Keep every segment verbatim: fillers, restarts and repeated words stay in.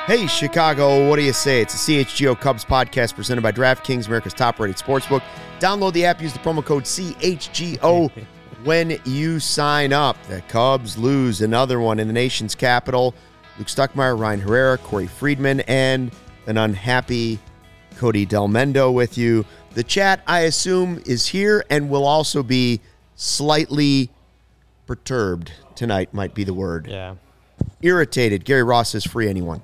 Hey, Chicago, what do you say? It's a C H G O Cubs podcast presented by DraftKings, America's top-rated sportsbook. Download the app, use the promo code C H G O when you sign up. The Cubs lose another one in the nation's capital. Luke Stuckmeyer, Ryan Herrera, Corey Friedman, and an unhappy Cody Delmendo with you. The chat, I assume, is here and will also be slightly perturbed tonight, might be the word. Yeah. Irritated. Gary Ross says free anyone.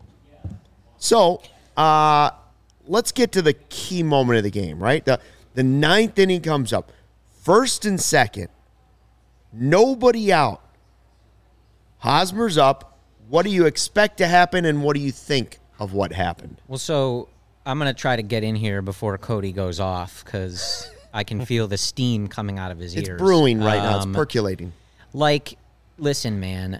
So, uh, let's get to the key moment of the game, right? The, the ninth inning comes up. First and second. Nobody out. Hosmer's up. What do you expect to happen, and what do you think of what happened? Well, so I'm going to try to get in here before Cody goes off because I can feel the steam coming out of his It's ears. It's brewing right um, now. It's percolating. Like, listen, man.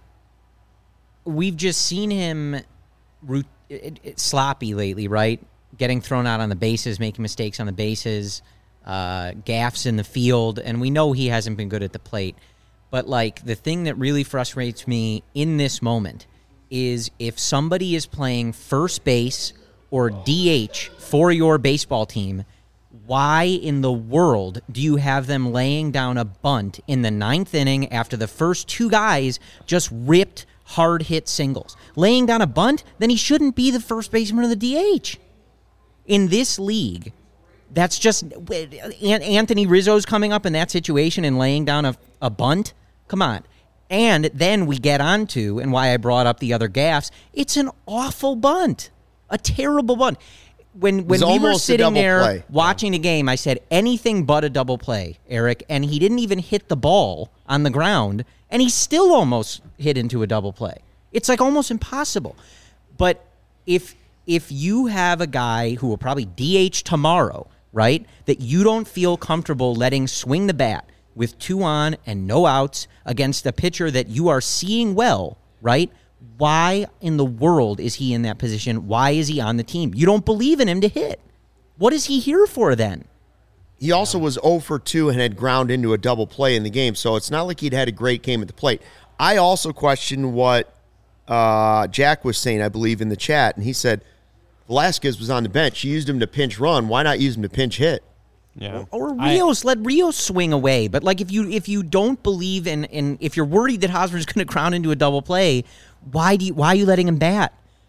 We've just seen him root, it, it, sloppy lately, right? Getting thrown out on the bases, making mistakes on the bases, uh, gaffes in the field, and we know he hasn't been good at the plate. But, like, the thing that really frustrates me in this moment is if somebody is playing first base or D H for your baseball team, why in the world do you have them laying down a bunt in the ninth inning after the first two guys just ripped hard-hit singles? Laying down a bunt, then he shouldn't be the first baseman of the D H. In this league, that's just... Anthony Rizzo's coming up in that situation and laying down a, a bunt? Come on. And then we get on to, and why I brought up the other gaffes, it's an awful bunt. A terrible bunt. When when we were sitting there play. watching the game, I said anything but a double play, Eric, and he didn't even hit the ball on the ground, and he still almost hit into a double play. It's like almost impossible. But if if you have a guy who will probably D H tomorrow, right, that you don't feel comfortable letting swing the bat with two on and no outs against a pitcher that you are seeing well, right? Why in the world is he in that position? Why is he on the team? You don't believe in him to hit. What is he here for then? He also was oh for two and had ground into a double play in the game, so it's not like he'd had a great game at the plate. I also question what uh, Jack was saying, I believe, in the chat, and he said Velasquez was on the bench. You used him to pinch run. Why not use him to pinch hit? Yeah. Or, or Rios, I, let Rios swing away. But like if you if you don't believe in, in if you're worried that Hosmer's going to ground into a double play, why do you, why are you letting him bat?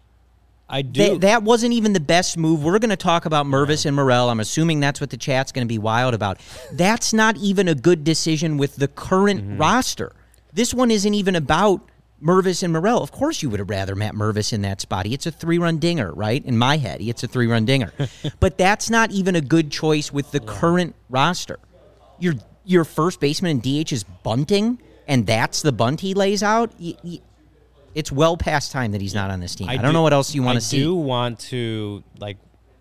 I do. Th- that wasn't even the best move. We're going to talk about Mervis and Morel. I'm assuming that's what the chat's going to be wild about. That's not even a good decision with the current mm-hmm. roster. This one isn't even about Mervis and Morel. Of course you would have rather Matt Mervis in that spot. He hits a three-run dinger, right? In my head, he hits a three-run dinger. But that's not even a good choice with the yeah. current roster. Your your first baseman in D H is bunting, and that's the bunt he lays out? Y- y- it's well past time that he's not on this team. I, I don't do, know what else you want to see. I do want to, like,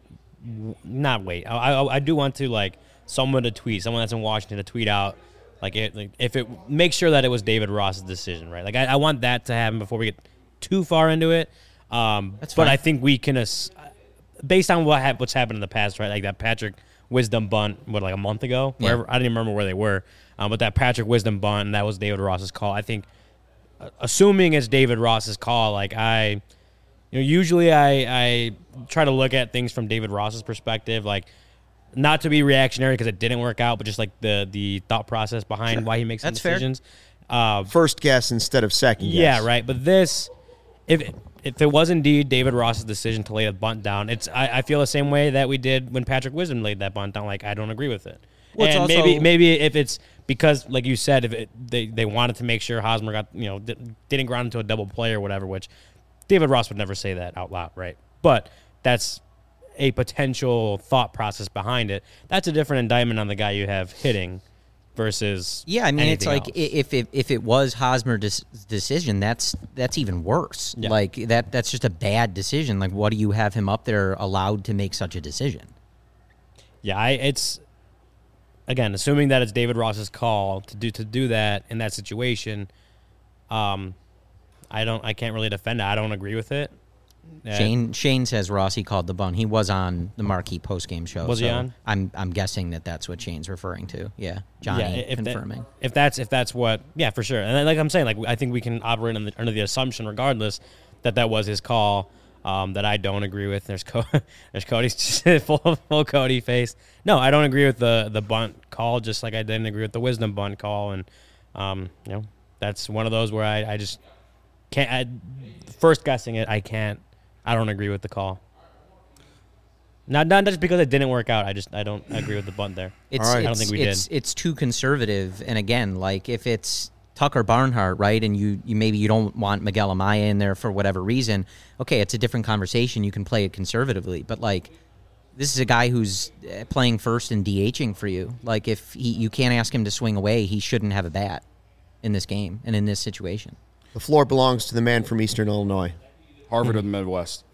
w- not wait. I, I I do want to, like, someone to tweet, someone that's in Washington to tweet out, Like, it, like, if it make sure that it was David Ross's decision, right? Like, I, I want that to happen before we get too far into it. Um, That's fine. But I think we can, uh, based on what ha- what's happened in the past, right? Like that Patrick Wisdom bunt, what, like a month ago? Yeah. Wherever, I didn't even remember where they were. Um, but that Patrick Wisdom bunt, and that was David Ross's call. I think, uh, assuming it's David Ross's call, like I, you know, usually I I try to look at things from David Ross's perspective, like. Not to be reactionary because it didn't work out, but just like the the thought process behind sure. why he makes some That's decisions. Fair. Uh, First guess instead of second guess. Yeah, right. But this, if if it was indeed David Ross's decision to lay the bunt down, it's I, I feel the same way that we did when Patrick Wisdom laid that bunt down. Like, I don't agree with it. Well, and also, maybe maybe if it's because, like you said, if it, they they wanted to make sure Hosmer got you know didn't ground into a double play or whatever, which David Ross would never say that out loud, right? But that's a potential thought process behind it. That's a different indictment on the guy you have hitting versus yeah. I mean, it's like else. if it, if it was Hosmer's decision, that's that's even worse. Yeah. Like that that's just a bad decision. Like, what do you have him up there allowed to make such a decision? Yeah, I, it's again assuming that it's David Ross's call to do to do that in that situation. Um, I don't. I can't really defend it. I don't agree with it. Yeah. Shane Shane says Rossi called the bunt. He was on the Marquee postgame show. Was so he on? I'm I'm guessing that that's what Shane's referring to. Yeah, Johnny yeah, if confirming. That, if that's if that's what, yeah, for sure. And like I'm saying, like I think we can operate on the, under the assumption, regardless, that that was his call. um, that I don't agree with. There's Co- there's Cody's full full Cody face. No, I don't agree with the the bunt call. Just like I didn't agree with the Wisdom bunt call, and um, you know that's one of those where I, I just can't. I, first guessing it, I can't. I don't agree with the call. Not not just because it didn't work out. I just I don't agree with the bunt there. It's, All right. it's, I don't think we it's, did. It's too conservative. And again, like if it's Tucker Barnhart, right, and you, you maybe you don't want Miguel Amaya in there for whatever reason, okay, it's a different conversation. You can play it conservatively. But, like, this is a guy who's playing first and DHing for you. Like, if he, you can't ask him to swing away, he shouldn't have a bat in this game and in this situation. The floor belongs to the man from Eastern Illinois. Harvard of the Midwest.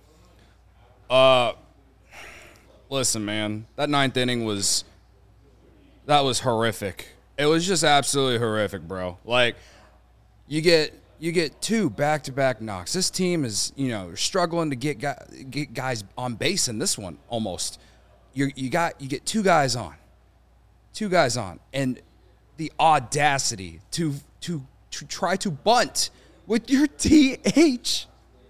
Uh, listen, man, that ninth inning was that was horrific. It was just absolutely horrific, bro. Like, you get you get two back-to-back knocks. This team is, you know, struggling to get guy, get guys on base in this one almost. You you got you get two guys on, two guys on, and the audacity to to to try to bunt with your D H.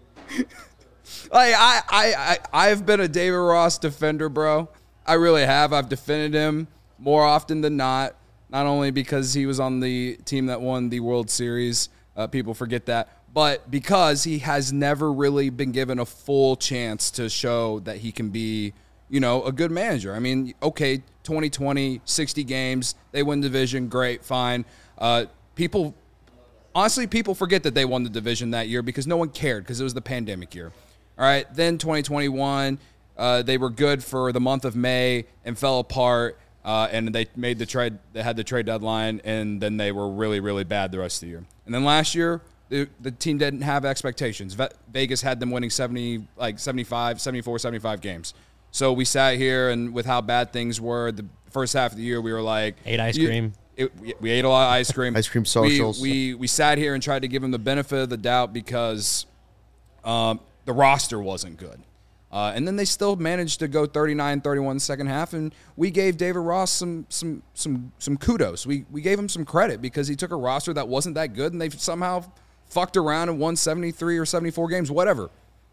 Like I, I, I, I've been a David Ross defender, bro. I really have. I've defended him more often than not. Not only because he was on the team that won the World Series, uh, people forget that, but because he has never really been given a full chance to show that he can be, you know, a good manager. I mean, okay, twenty twenty, sixty games, they win division, great, fine. Uh, people, honestly, people forget that they won the division that year because no one cared because it was the pandemic year. All right, then twenty twenty-one, uh, they were good for the month of May and fell apart. Uh, and they made the trade. They had the trade deadline, and then they were really, really bad the rest of the year. And then last year, the, the team didn't have expectations. Ve- Vegas had them winning seventy, like seventy-five, seventy-four, seventy-five games. So we sat here, and with how bad things were, the first half of the year, we were like, Ate ice you, cream. It, we, we ate a lot of ice cream. Ice cream socials. We, we we sat here and tried to give them the benefit of the doubt because um, the roster wasn't good. Uh, and then they still managed to go thirty-nine thirty-one second half, and we gave David Ross some some some some kudos. We we gave him some credit because he took a roster that wasn't that good, and they somehow fucked around and won seventy-three or seventy-four games, whatever.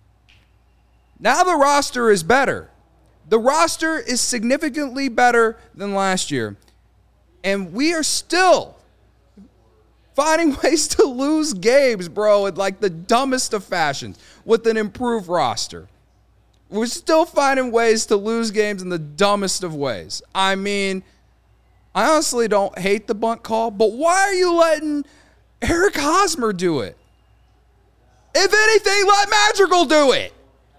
Now the roster is better. The roster is significantly better than last year, and we are still finding ways to lose games, bro, in like the dumbest of fashions with an improved roster. We're still finding ways to lose games in the dumbest of ways. I mean, I honestly don't hate the bunt call, but why are you letting Eric Hosmer do it? If anything, let Madrigal do it.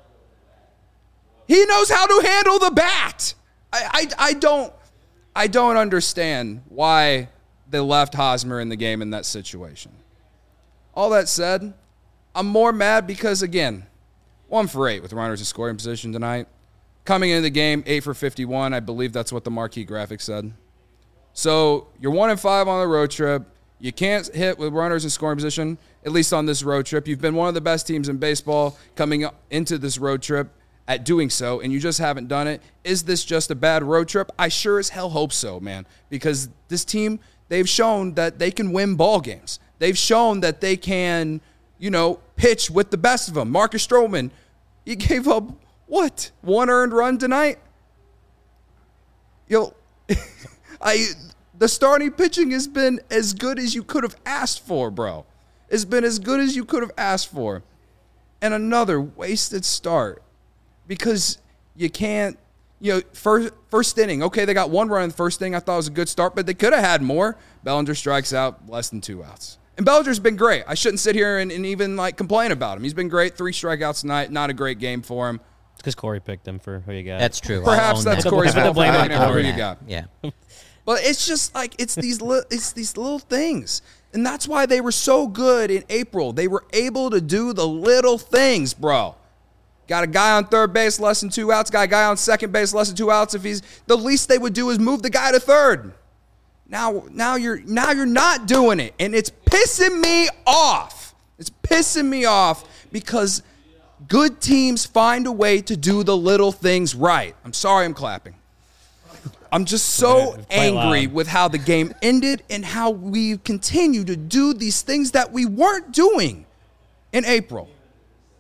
He knows how to handle the bat. I, I, I don't I don't understand why they left Hosmer in the game in that situation. All that said, I'm more mad because, again, One for eight with runners in scoring position tonight. Coming into the game, eight for fifty-one. I believe that's what the marquee graphic said. So you're one and five on the road trip. You can't hit with runners in scoring position, at least on this road trip. You've been one of the best teams in baseball coming into this road trip at doing so, and you just haven't done it. Is this just a bad road trip? I sure as hell hope so, man, because this team, they've shown that they can win ball games. They've shown that they can, you know, pitch with the best of them. Marcus Stroman, he gave up, what, one earned run tonight? Yo, I the starting pitching has been as good as you could have asked for, bro. It's been as good as you could have asked for. And another wasted start because you can't, you know, first, first inning, okay, they got one run in the first inning. I thought it was a good start, but they could have had more. Bellinger strikes out, less than two outs. And Bellinger's been great. I shouldn't sit here and, and even, like, complain about him. He's been great. Three strikeouts tonight. Not a great game for him. It's because Corey picked him for who you got. That's true. Perhaps that's that. Corey's fault for blame picking on him for who Corey. you got. Yeah. But it's just like it's these li- it's these little things. And that's why they were so good in April. They were able to do the little things, bro. Got a guy on third base, less than two outs. Got a guy on second base, less than two outs. If he's the least they would do is move the guy to third. Now, now you're now you're not doing it, and it's pissing me off. It's pissing me off because good teams find a way to do the little things right. I'm sorry, I'm clapping. I'm just so angry loud. with how the game ended and how we continue to do these things that we weren't doing in April.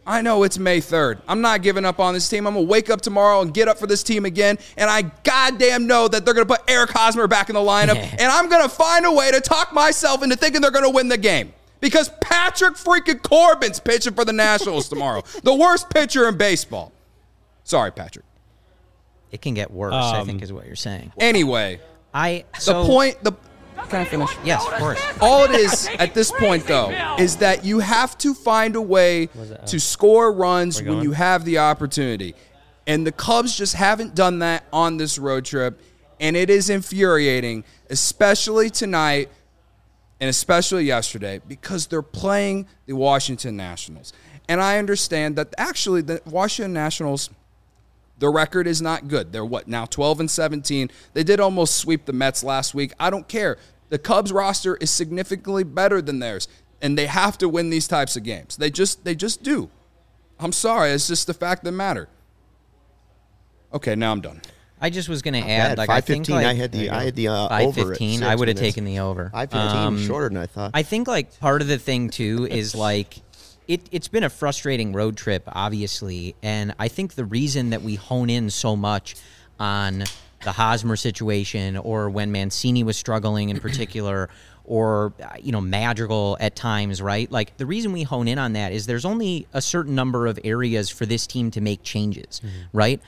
I know it's May third. I'm not giving up on this team. I'm going to wake up tomorrow and get up for this team again, and I goddamn know that they're going to put Eric Hosmer back in the lineup, and I'm going to find a way to talk myself into thinking they're going to win the game. Because Patrick freaking Corbin's pitching for the Nationals tomorrow. The worst pitcher in baseball. Sorry, Patrick. It can get worse, Um, I think is what you're saying. Anyway, I so, the point... the Can I finish? Yes, of course. All it is at this point, though, is that you have to find a way to score runs when you have the opportunity. And the Cubs just haven't done that on this road trip, and it is infuriating, especially tonight and especially yesterday, because they're playing the Washington Nationals. And I understand that actually the Washington Nationals, the record is not good. They're what, now twelve and seventeen. They did almost sweep the Mets last week. I don't care. The Cubs roster is significantly better than theirs, and they have to win these types of games. They just they just do. I'm sorry. It's just the fact of the matter. Okay, now I'm done. I just was going to Not add, bad. like I think, like I had the I had the uh, five over. fifteen. At I six would have minutes. taken the over. five fifteen, Um, shorter than I thought. I think like part of the thing too is like it. It's been a frustrating road trip, obviously, and I think the reason that we hone in so much on the Hosmer situation, or when Mancini was struggling in particular, or you know Madrigal at times, right? Like the reason we hone in on that is there's only a certain number of areas for this team to make changes, mm-hmm. right?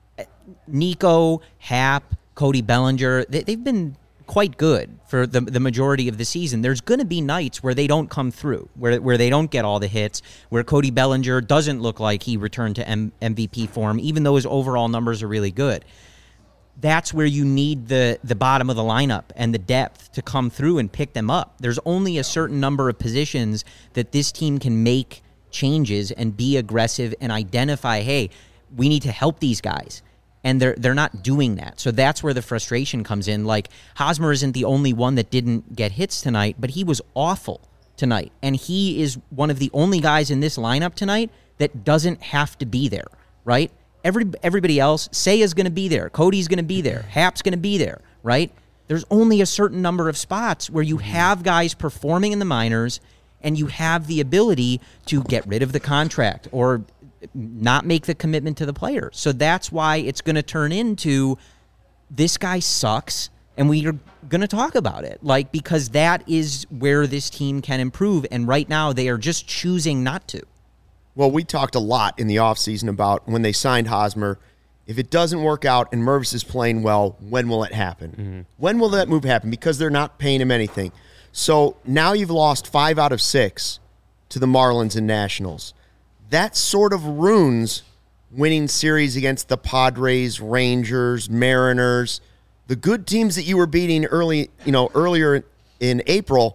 Nico, Hap, Cody Bellinger, they, they've been quite good for the the majority of the season. There's going to be nights where they don't come through, where where they don't get all the hits, where Cody Bellinger doesn't look like he returned to M- MVP form, even though his overall numbers are really good. That's where you need the the bottom of the lineup and the depth to come through and pick them up. There's only a certain number of positions that this team can make changes and be aggressive and identify, hey, we need to help these guys. And they're they're not doing that. So that's where the frustration comes in. Like, Hosmer isn't the only one that didn't get hits tonight, but he was awful tonight. And he is one of the only guys in this lineup tonight that doesn't have to be there, right? Every Everybody else, Seiya's going to be there. Cody's going to be there. Hap's going to be there, right? There's only a certain number of spots where you have guys performing in the minors and you have the ability to get rid of the contract or not make the commitment to the player. So that's why it's going to turn into this guy sucks and we are going to talk about it. Like, because that is where this team can improve. And right now they are just choosing not to. Well, we talked a lot in the offseason about when they signed Hosmer. If it doesn't work out and Mervis is playing well, when will it happen? Mm-hmm. When will that move happen? Because they're not paying him anything. So now you've lost five out of six to the Marlins and Nationals. That sort of ruins winning series against the Padres, Rangers, Mariners, the good teams that you were beating early, you know, earlier in April.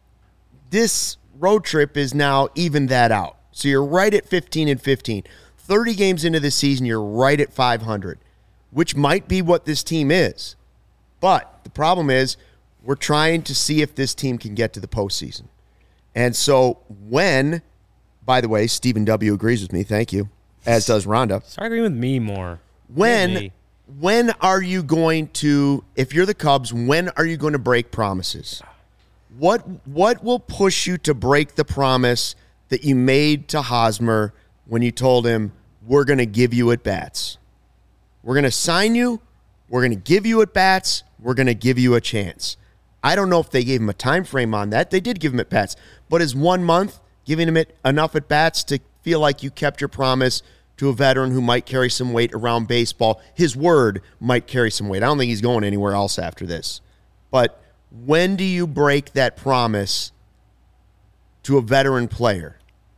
This road trip is now evened that out. So you're right at fifteen and fifteen. thirty games into the season, you're right at five hundred, which might be what this team is. But the problem is we're trying to see if this team can get to the postseason. And so when... By the way, Stephen W. agrees with me. Thank you. As does Rhonda. Start agreeing with me more. When me. when are you going to, if you're the Cubs, when are you going to break promises? What what will push you to break the promise that you made to Hosmer when you told him, we're going to give you at-bats? We're going to sign you. We're going to give you at-bats. We're going to give you a chance. I don't know if they gave him a time frame on that. They did give him at-bats. But is one month giving him it enough at-bats to feel like you kept your promise to a veteran who might carry some weight around baseball? His word might carry some weight. I don't think he's going anywhere else after this. But when do you break that promise to a veteran player?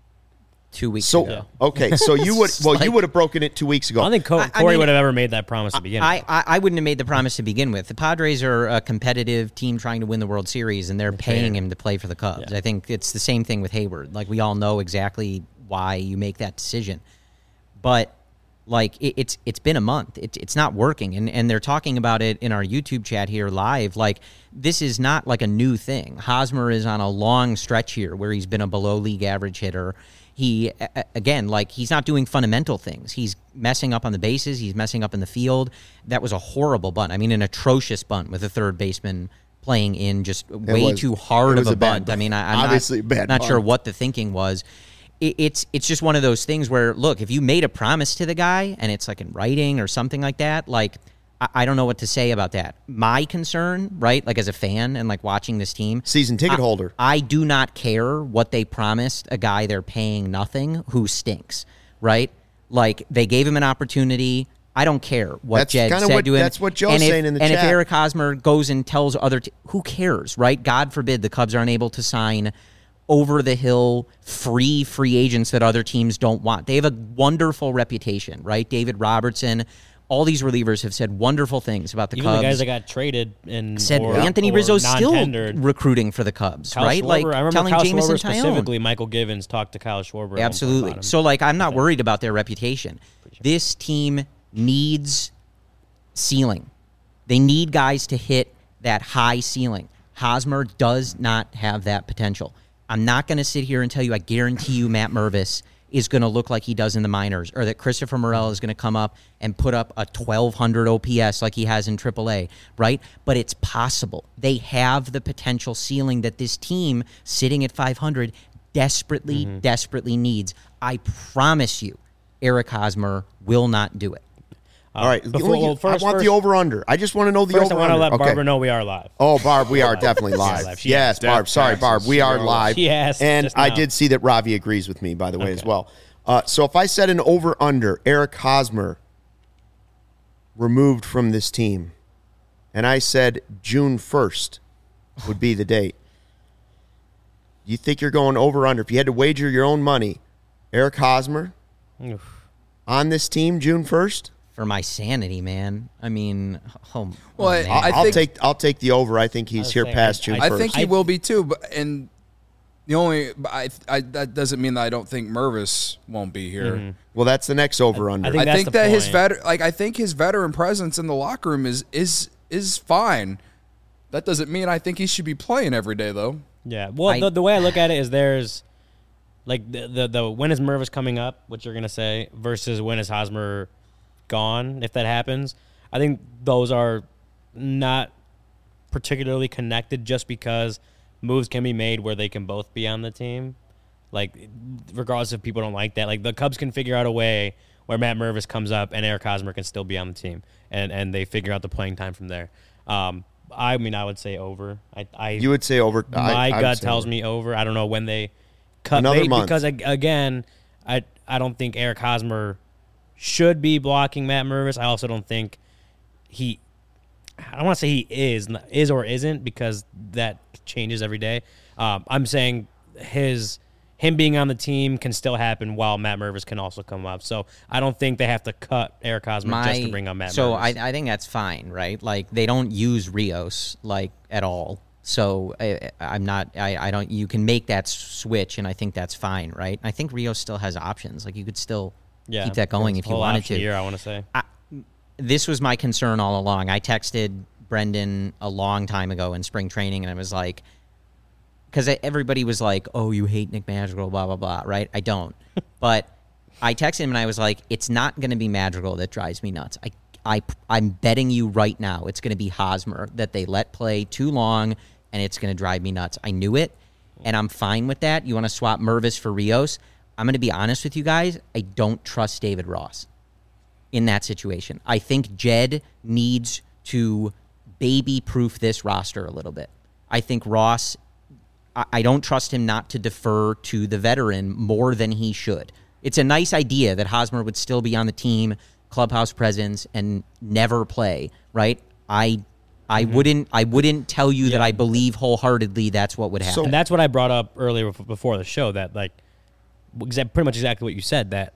Two weeks so, ago. Okay, so you would well, like, you would have broken it two weeks ago. I don't think Co- I- I Corey mean, would have ever made that promise to begin I, with. I, I wouldn't have made the promise to begin with. The Padres are a competitive team trying to win the World Series, and they're paying him to play for the Cubs. Yeah. I think it's the same thing with Hayward. Like, we all know exactly why you make that decision. But, like, it, it's it's been a month. It, it's not working. And, and they're talking about it in our YouTube chat here live. Like, this is not, like, a new thing. Hosmer is on a long stretch here where he's been a below-league average hitter. He, again, like, he's not doing fundamental things. He's messing up on the bases. He's messing up in the field. That was a horrible bunt. I mean, an atrocious bunt with a third baseman playing in just way was, too hard of a, a bunt. bunt. I mean, I, I'm Obviously not, a bad not bunt. sure what the thinking was. it, it's it's just one of those things where, look, if you made a promise to the guy and it's like in writing or something like that, like, I, I don't know what to say about that. My concern, right, like as a fan and like watching this team. Season ticket I, holder. I do not care what they promised a guy they're paying nothing who stinks, right? Like, they gave him an opportunity. I don't care what That's Jed kinda said what- to him. that's what Joe's and if, saying in the and chat. if Eric Hosmer goes and tells other, t- who cares, right? God forbid the Cubs aren't able to sign over-the-hill, free free agents that other teams don't want. They have a wonderful reputation, right? David Robertson, all these relievers have said wonderful things about the Even Cubs. the guys that got traded and said or, Anthony or Rizzo's still non-tendered. recruiting for the Cubs, Kyle right? Schwarber, Like I remember telling Kyle Jameson Schwarber Tyone. specifically. Michael Givens talked to Kyle Schwarber. at one point Absolutely. about him. So, like, I'm not worried about their reputation. This team needs ceiling. They need guys to hit that high ceiling. Hosmer does not have that potential. I'm not going to sit here and tell you I guarantee you Matt Mervis is going to look like he does in the minors, or that Christopher Morel is going to come up and put up a twelve hundred O P S like he has in triple A, right? But it's possible. They have the potential ceiling that this team sitting at five hundred desperately, mm-hmm. desperately needs. I promise you, Eric Hosmer will not do it. Uh, All right. before, Only- well, first, I want first, the over-under. I just want to know the First, I over-under. want to let Okay. Barbara know we are live. Oh, Barb, we are definitely live. live. She Yes, asked. Barb. Sorry, Death Barb. We taxes. are She live. She asked And just I now. did see that Ravi agrees with me, by the way, Okay. as well. Uh, so if I said an over-under, Eric Hosmer removed from this team, and I said June first would be the date, you think you're going over-under? If you had to wager your own money, Eric Hosmer Oof. on this team June first? For my sanity, man. I mean, oh, Well, oh, I- man. I I'll think- take I'll take the over. I think he's was here saying, past I- June I I first. think he I- will be too, but and the only but I, I that doesn't mean that I don't think Mervis won't be here. Mm-hmm. Well, that's the next over-under. I think I that's think the that his point. vet like I think his veteran presence in the locker room is is is fine. That doesn't mean I think he should be playing every day though. Yeah. Well, I- the, the way I look at it is there's like the, the the when is Mervis coming up, what you're gonna say, versus when is Hosmer gone, if that happens. I think those are not particularly connected just because moves can be made where they can both be on the team. Like, regardless if people don't like that. Like, the Cubs can figure out a way where Matt Mervis comes up and Eric Hosmer can still be on the team. And, and they figure out the playing time from there. Um, I mean, I would say over. I, I You would say over. my I, I would gut say tells over. me over. I don't know when they cut Another bait month. because ag- again, I I don't think Eric Hosmer should be blocking Matt Mervis. I also don't think he. I don't want to say he is is or isn't because that changes every day. Um, I'm saying his him being on the team can still happen while Matt Mervis can also come up. So I don't think they have to cut Eric Hosmer just to bring on Matt so Mervis. I, I think that's fine, right? Like, they don't use Rios like at all. So I, I'm not. I, I don't. You can make that switch, and I think that's fine, right? I think Rios still has options. Like, you could still yeah, keep that going if you whole wanted option to. Year, I want to say. I, this was my concern all along. I texted Brendan a long time ago in spring training, and I was like, because everybody was like, "Oh, you hate Nick Madrigal," blah blah blah. Right? I don't, but I texted him and I was like, "It's not going to be Madrigal that drives me nuts. I, I, I'm betting you right now, it's going to be Hosmer that they let play too long, and it's going to drive me nuts." I knew it, and I'm fine with that. You want to swap Mervis for Rios? I'm going to be honest with you guys. I don't trust David Ross in that situation. I think Jed needs to baby-proof this roster a little bit. I think Ross, I, I don't trust him not to defer to the veteran more than he should. It's a nice idea that Hosmer would still be on the team, clubhouse presence, and never play, right? I I mm-hmm. wouldn't I wouldn't tell you yeah. that I believe wholeheartedly that's what would happen. So, and that's what I brought up earlier before the show, that, like, pretty much exactly what you said, that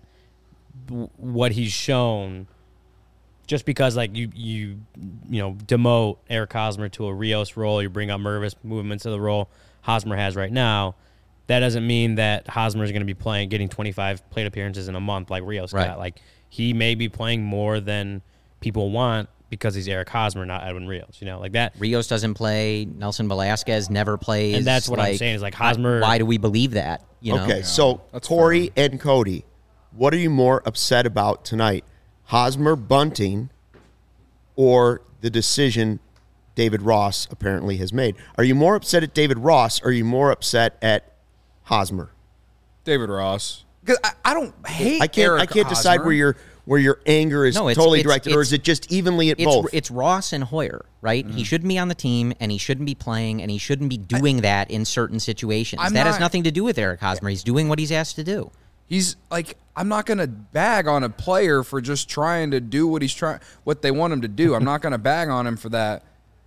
what he's shown, just because, like, you you you know demote Eric Hosmer to a Rios role, you bring up Mervis, move him into the role Hosmer has right now, that doesn't mean that Hosmer is going to be playing, getting twenty-five plate appearances in a month like Rios right. got. Like, he may be playing more than people want because he's Eric Hosmer, not Edwin Rios. You know, like that. Rios doesn't play. Nelson Velasquez never plays. And that's what like, I'm saying is, like, Hosmer. Why do we believe that? You know? Okay, Yeah, so that's Corey fair. and Cody, what are you more upset about tonight? Hosmer bunting or the decision David Ross apparently has made? Are you more upset at David Ross or are you more upset at Hosmer? David Ross. Because I, I don't hate. I can't. Eric I can't Hosmer. decide where your where your anger is No, it's- totally it's- directed, or it's- is it just evenly at it's, both? It's Ross and Hoyer, right? Mm-hmm. He shouldn't be on the team, and he shouldn't be playing, and he shouldn't be doing I, that in certain situations. I'm that has not- nothing to do with Eric Hosmer. He's doing what he's asked to do. He's like, I'm not gonna bag on a player for just trying to do what he's trying, what they want him to do. I'm not gonna bag on him for that.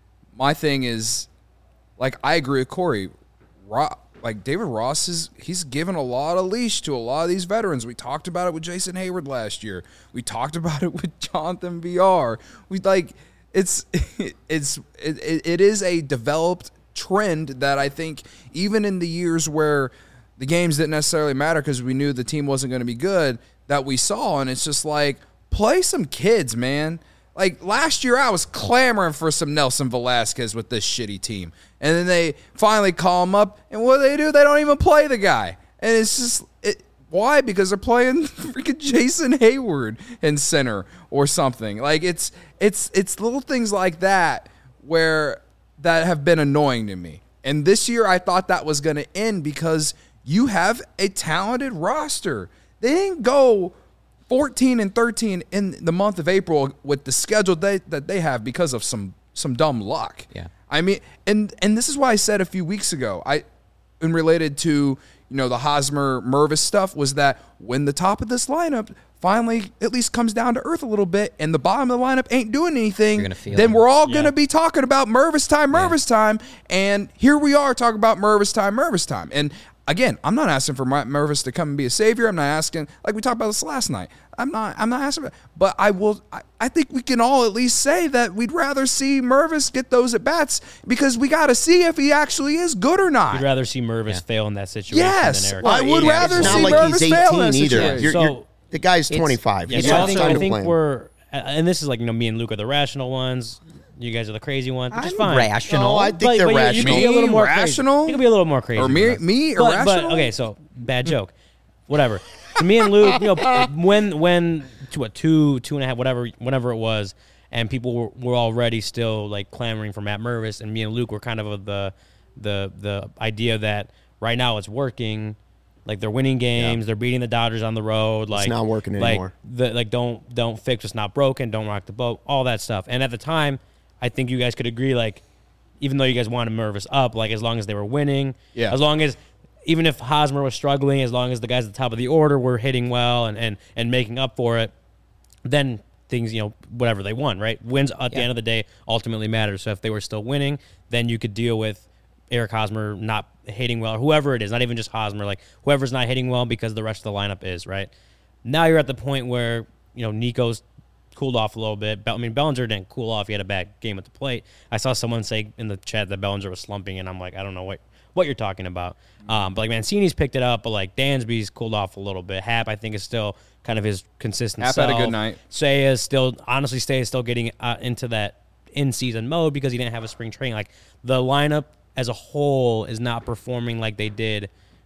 My thing is, like, I agree with Corey. Ro- like David Ross is, he's given a lot of leash to a lot of these veterans. We talked about it with Jason Hayward last year. We talked about it with Jonathan V R. We like, it's, it's, it, it is a developed trend that I think even in the years where the games didn't necessarily matter because we knew the team wasn't going to be good, that we saw. And it's just like, play some kids, man. Like, last year I was clamoring for some Nelson Velasquez with this shitty team. And then they finally call him up, and what do they do? They don't even play the guy. And it's just, it, why? Because they're playing freaking Jason Hayward in center or something. Like, it's it's it's little things like that where that have been annoying to me. And this year I thought that was going to end because you have a talented roster. They didn't go fourteen and thirteen in the month of April with the schedule they, that they have because of some some dumb luck. Yeah. I mean, and and this is why I said a few weeks ago, I, in related to, you know, the Hosmer Mervis stuff, was that when the top of this lineup finally at least comes down to earth a little bit and the bottom of the lineup ain't doing anything, then we're all going to be talking about Mervis time, Mervis yeah. time. And here we are talking about Mervis time, Mervis time. And again, I'm not asking for Mervis to come and be a savior. I'm not asking, like we talked about this last night. I'm not. I'm not asking, but I will. I, I think we can all at least say that we'd rather see Mervis get those at bats because we got to see if he actually is good or not. You'd rather see Mervis yeah. fail in that situation. Yes, than Eric. Well, I would yeah, rather it's see not Mervis like he's fail in that eighteen either. situation. You're, so, you're, the guy's twenty-five. Yeah, He's so not also, time I to think play him. we're, and this is like, you know, me and Luke are the rational ones. You guys are the crazy ones, which I'm is fine. rational. No, I think but, they're but you- rational. You can be a little more Rational? crazy. You can be a little more crazy. Or me, me but, irrational? But, okay, so bad joke. Whatever. So me and Luke, you know, when when to what two two and a half whatever whatever it was, and people were, were already still like clamoring for Matt Mervis, and me and Luke were kind of of the the the idea that right now it's working. Like they're winning games, yeah. they're beating the Dodgers on the road. Like it's not working like, anymore. The, like don't don't fix what's not broken, don't rock the boat, all that stuff. And at the time, I think you guys could agree, like, even though you guys wanted Mervis up, like as long as they were winning, yeah. as long as even if Hosmer was struggling, as long as the guys at the top of the order were hitting well and and, and making up for it, then things, you know, whatever they won, right? Wins at yeah. the end of the day ultimately matters. So if they were still winning, then you could deal with Eric Hosmer not hitting well, or whoever it is, not even just Hosmer, like whoever's not hitting well because the rest of the lineup is, right? Now you're at the point where, you know, Nico's cooled off a little bit. I mean, Bellinger didn't cool off. He had a bad game at the plate. I saw someone say in the chat that Bellinger was slumping, and I'm like, I don't know what what you're talking about. Um, but like Mancini's picked it up, but like Dansby's cooled off a little bit. Hap, I think, is still kind of his consistent Hap self. had a good night. Say is still, honestly, Say is still getting uh, into that in-season mode because he didn't have a spring training. Like the lineup as a whole is not performing like they did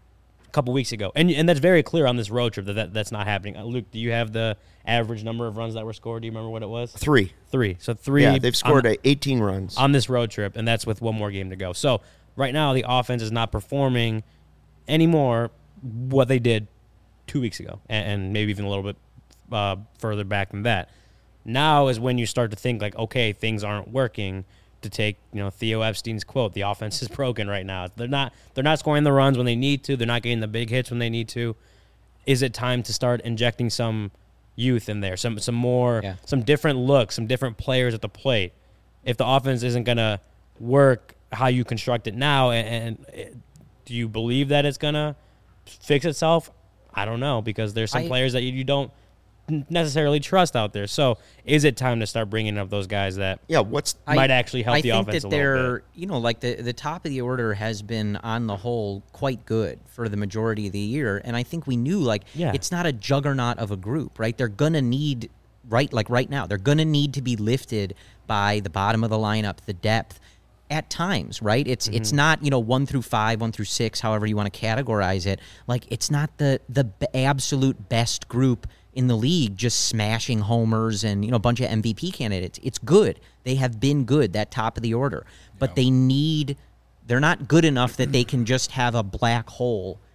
a couple weeks ago. And and that's very clear on this road trip that, that that's not happening. Uh, Luke, do you have the average number of runs that were scored? Do you remember what it was? Three. Three. So three. Yeah, they've scored on, eighteen runs. on this road trip, and that's with one more game to go. So right now the offense is not performing anymore what they did two weeks ago, and, and maybe even a little bit uh, further back than that. Now is when you start to think like, okay, things aren't working. To take, you know, Theo Epstein's quote, the offense is broken right now. They're not they're not scoring the runs when they need to. They're not getting the big hits when they need to. Is it time to start injecting some youth in there, some some more, yeah. some different looks, some different players at the plate? If the offense isn't gonna work how you construct it now, and, and do you believe that it's gonna fix itself? I don't know, because there's some I, players that you, you don't necessarily trust out there. So is it time to start bringing up those guys that yeah, what's might I, actually help I the think offense that a they're, little bit? You know, like the, the top of the order has been on the whole quite good for the majority of the year. And I think we knew, like, yeah. it's not a juggernaut of a group, right? They're going to need, right, like right now, they're going to need to be lifted by the bottom of the lineup, the depth. At times, right? It's mm-hmm. it's not, you know, one through five, one through six, however you want to categorize it. Like, it's not the the b- absolute best group in the league just smashing homers and, you know, a bunch of M V P candidates. It's good. They have been good, that top of the order. But yeah. they need, they're not good enough that they can just have a black hole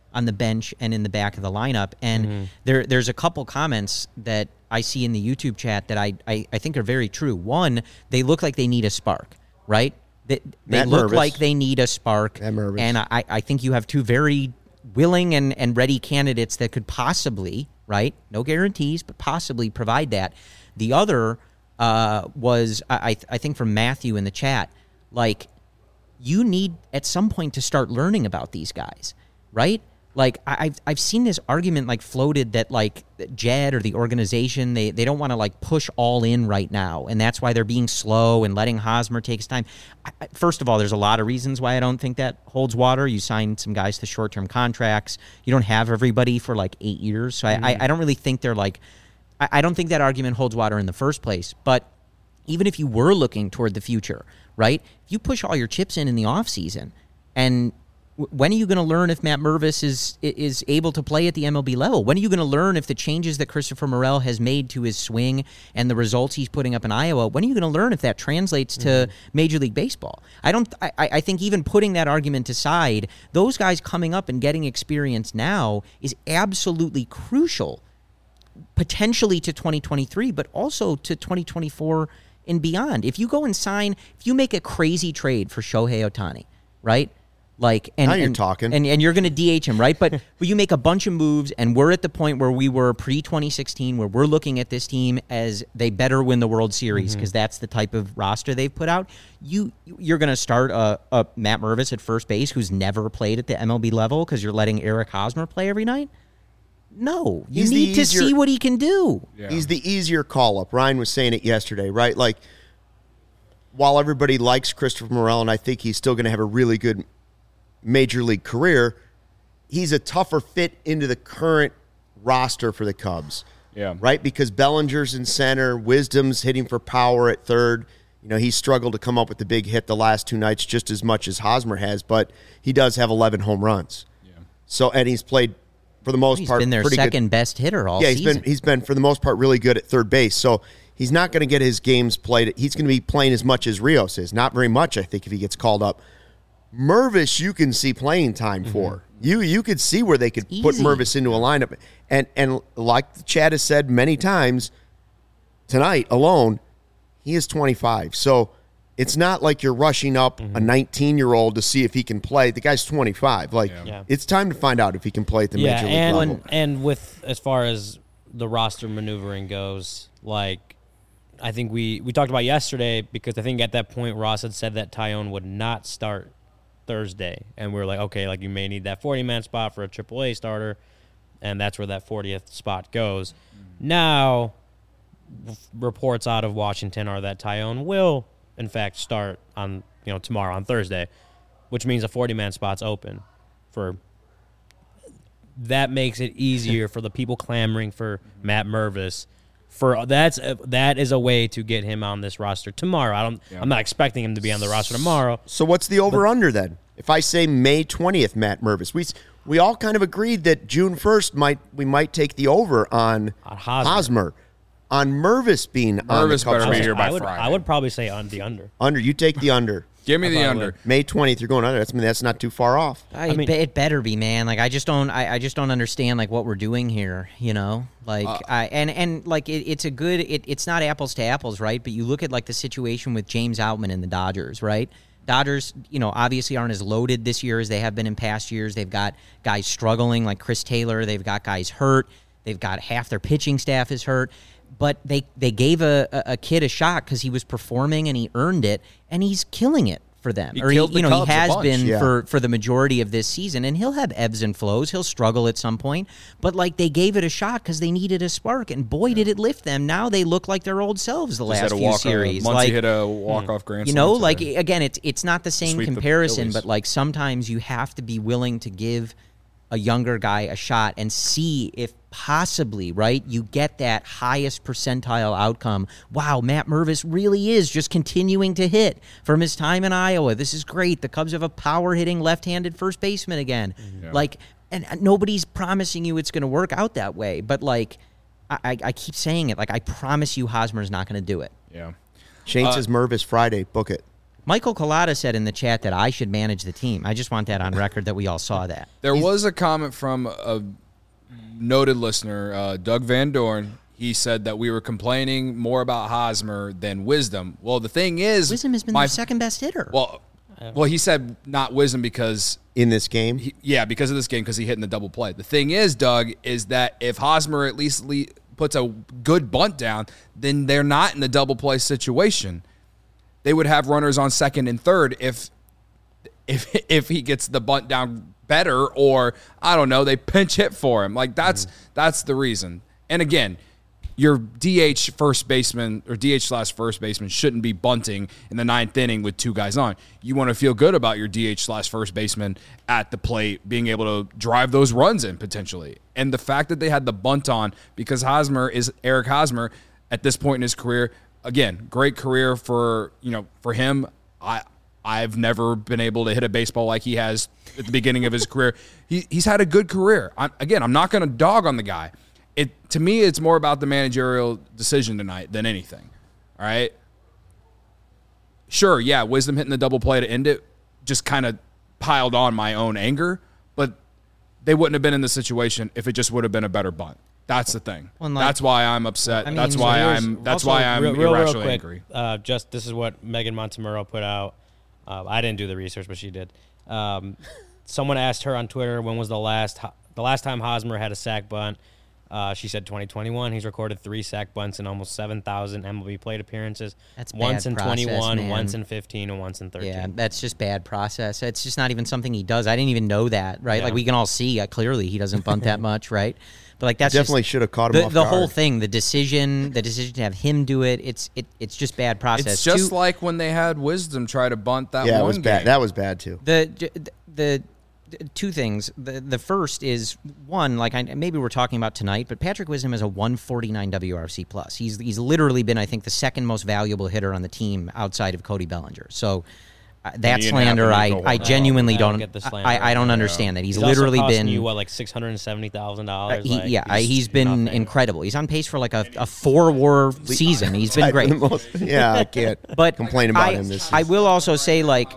on the bench and in the back of the lineup. And mm-hmm. there there's a couple comments that I see in the YouTube chat that I, I, I think are very true. One, they look like they need a spark, right? They, they look Mervis. like they need a spark. And I, I think you have two very willing and, and ready candidates that could possibly, right? No guarantees, but possibly provide that. The other uh, was, I, I think from Matthew in the chat, like, you need at some point to start learning about these guys, right? Like, I've I've seen this argument like floated that like Jed or the organization, they, they don't want to like push all in right now, and that's why they're being slow and letting Hosmer take his time. I, first of all, there's a lot of reasons why I don't think that holds water. You sign some guys to short-term contracts. You don't have everybody for like eight years, so mm-hmm. I, I I don't really think they're like I, I don't think that argument holds water in the first place. But even if you were looking toward the future, right? If you push all your chips in in the offseason, and when are you going to learn if Matt Mervis is is able to play at the M L B level? When are you going to learn if the changes that Christopher Morel has made to his swing and the results he's putting up in Iowa, when are you going to learn if that translates to mm-hmm. Major League Baseball? I don't. I, I think even putting that argument aside, those guys coming up and getting experience now is absolutely crucial, potentially to twenty twenty-three, but also to twenty twenty-four and beyond. If you go and sign, if you make a crazy trade for Shohei Ohtani, right? Like, and, now you're and, talking. And, and you're going to D H him, right? But, but you make a bunch of moves, and we're at the point where we were pre twenty sixteen, where we're looking at this team as they better win the World Series because mm-hmm. that's the type of roster they've put out. You, you're going to start a, a Matt Mervis at first base who's never played at the M L B level because you're letting Eric Hosmer play every night? No. You He's need to easier, see what he can do. Yeah. He's the easier call-up. Ryan was saying it yesterday, right? Like, while everybody likes Christopher Morel, and I think he's still going to have a really good Major League career, he's a tougher fit into the current roster for the Cubs. Yeah. Right? Because Bellinger's in center, Wisdom's hitting for power at third. You know, he's struggled to come up with the big hit the last two nights just as much as Hosmer has, but he does have eleven home runs. Yeah. So, and he's played, for the most he's part, been their pretty second good. best hitter all yeah, he's season. been he's been, for the most part, really good at third base. So he's not going to get his games played. He's going to be playing as much as Rios is. Not very much, I think, if he gets called up. Mervis, you can see playing time for. Mm-hmm. You you could see where they could Easy. put Mervis into a lineup. And and like Chad has said many times, tonight alone, he is twenty-five. So it's not like you're rushing up mm-hmm. a nineteen-year-old to see if he can play. The guy's twenty-five. Like, yeah. it's time to find out if he can play at the yeah, Major League and, level. And with, as far as the roster maneuvering goes, like, I think we, we talked about yesterday, because I think at that point Ross had said that Tyone would not start Thursday, and we were like, okay, like, you may need that forty-man spot for a triple A starter, and that's where that fortieth spot goes. Mm-hmm. Now, reports out of Washington are that Tyone will, in fact, start on, you know, tomorrow, on Thursday, which means a forty-man spot's open. For that makes it easier for the people clamoring for Matt Mervis. For that's a, that is a way to get him on this roster tomorrow. I don't. Yeah. I'm not expecting him to be on the roster tomorrow. So what's the over under then? If I say May twentieth, Matt Mervis, we we all kind of agreed that June first might we might take the over on, on Hosmer. Hosmer. On Mervis being Mervis on the Cubs. better be here by I would, Friday. I would probably say on the under. Under. You take the under. Give me I the under. would. May twentieth, you're going under. That's I mean that's not too far off. I, I mean, it better be, man. Like, I just don't. I, I just don't understand like what we're doing here. You know, like uh, I and and like it, it's a good. It, it's not apples to apples, right? But you look at like the situation with James Outman and the Dodgers, right? Dodgers, you know, obviously aren't as loaded this year as they have been in past years. They've got guys struggling like Chris Taylor. They've got guys hurt. They've got half their pitching staff is hurt. But they, they gave a, a, a kid a shot because he was performing and he earned it, and he's killing it for them. He or he, killed the you know, Cubs he a has bunch. been Yeah. for, for the majority of this season, and he'll have ebbs and flows. He'll struggle at some point. But, like, they gave it a shot because they needed a spark, and boy, did it lift them. Now they look like their old selves the Just last had a few walk, series. Once like, he hit a walk-off grand you slam know, like, today. again, it's it's not the same Sweep the comparison, Phillies. but, like, sometimes you have to be willing to give a younger guy a shot and see if possibly, right, you get that highest percentile outcome. Wow, Matt Mervis really is just continuing to hit from his time in Iowa. This is great. The Cubs have a power-hitting left-handed first baseman again. Yeah. Like, and nobody's promising you it's going to work out that way, but, like, I, I keep saying it. Like, I promise you Hosmer's not going to do it. Yeah. Shane Uh, says Mervis Friday. Book it. Michael Collada said in the chat that I should manage the team. I just want that on record that we all saw that. There He's, was a comment from a noted listener, uh, Doug Van Dorn. He said that we were complaining more about Hosmer than Wisdom. Well, the thing is, Wisdom has been my, the second best hitter. Well, well, he said not Wisdom because in this game, he, yeah, because of this game, because he hit in the double play. The thing is, Doug, is that if Hosmer at least le- puts a good bunt down, then they're not in the double play situation. They would have runners on second and third if if if he gets the bunt down better, or I don't know, they pinch hit for him. Like that's mm. that's the reason. And again, your D H first baseman or D H slash first baseman shouldn't be bunting in the ninth inning with two guys on. You want to feel good about your D H slash first baseman at the plate, being able to drive those runs in potentially. And the fact that they had the bunt on because Hosmer is Eric Hosmer at this point in his career. Again, great career for you know for him. I I've never been able to hit a baseball like he has at the beginning of his career. He he's had a good career. I'm, again, I'm not going to dog on the guy. It to me, it's more about the managerial decision tonight than anything. All right. Sure, yeah, Wisdom hitting the double play to end it just kind of piled on my own anger, but they wouldn't have been in the situation if it just would have been a better bunt. That's the thing. Well, like, that's why I'm upset. I mean, that's why so I'm. That's why I'm real, real, irrationally real quick, angry. Uh, just this is what Megan Montemurro put out. Uh, I didn't do the research, but she did. Um, someone asked her on Twitter when was the last the last time Hosmer had a sack bunt. Uh, she said twenty twenty-one. He's recorded three sack bunts in almost seven thousand M L B plate appearances. That's once bad in process, twenty-one, man. once in fifteen, and once in thirteen. Yeah, that's just bad process. It's just not even something he does. I didn't even know that, right? Yeah. Like we can all see uh, clearly he doesn't bunt that much, right? But like that's definitely just, should have caught him the, off the guard. whole thing, the decision, the decision to have him do it. It's it, it's just bad process. It's just Two, like when they had Wisdom try to bunt that yeah, one it was game. bad. That was bad too. The the. the Two things. The the first is one, like I, maybe we're talking about tonight, but Patrick Wisdom is a one forty-nine W R C plus. He's he's literally been, I think, the second most valuable hitter on the team outside of Cody Bellinger. So uh, that slander, I, I genuinely I don't. don't get the I, I don't understand yeah. that. He's, he's literally also been you what like six hundred and seventy thousand dollars. Uh, he, like, yeah, he's, he's been nothing. incredible. He's on pace for like a, a four WAR season. He's been great. Most, yeah, I can't but complain about I, him this I season. will also say like.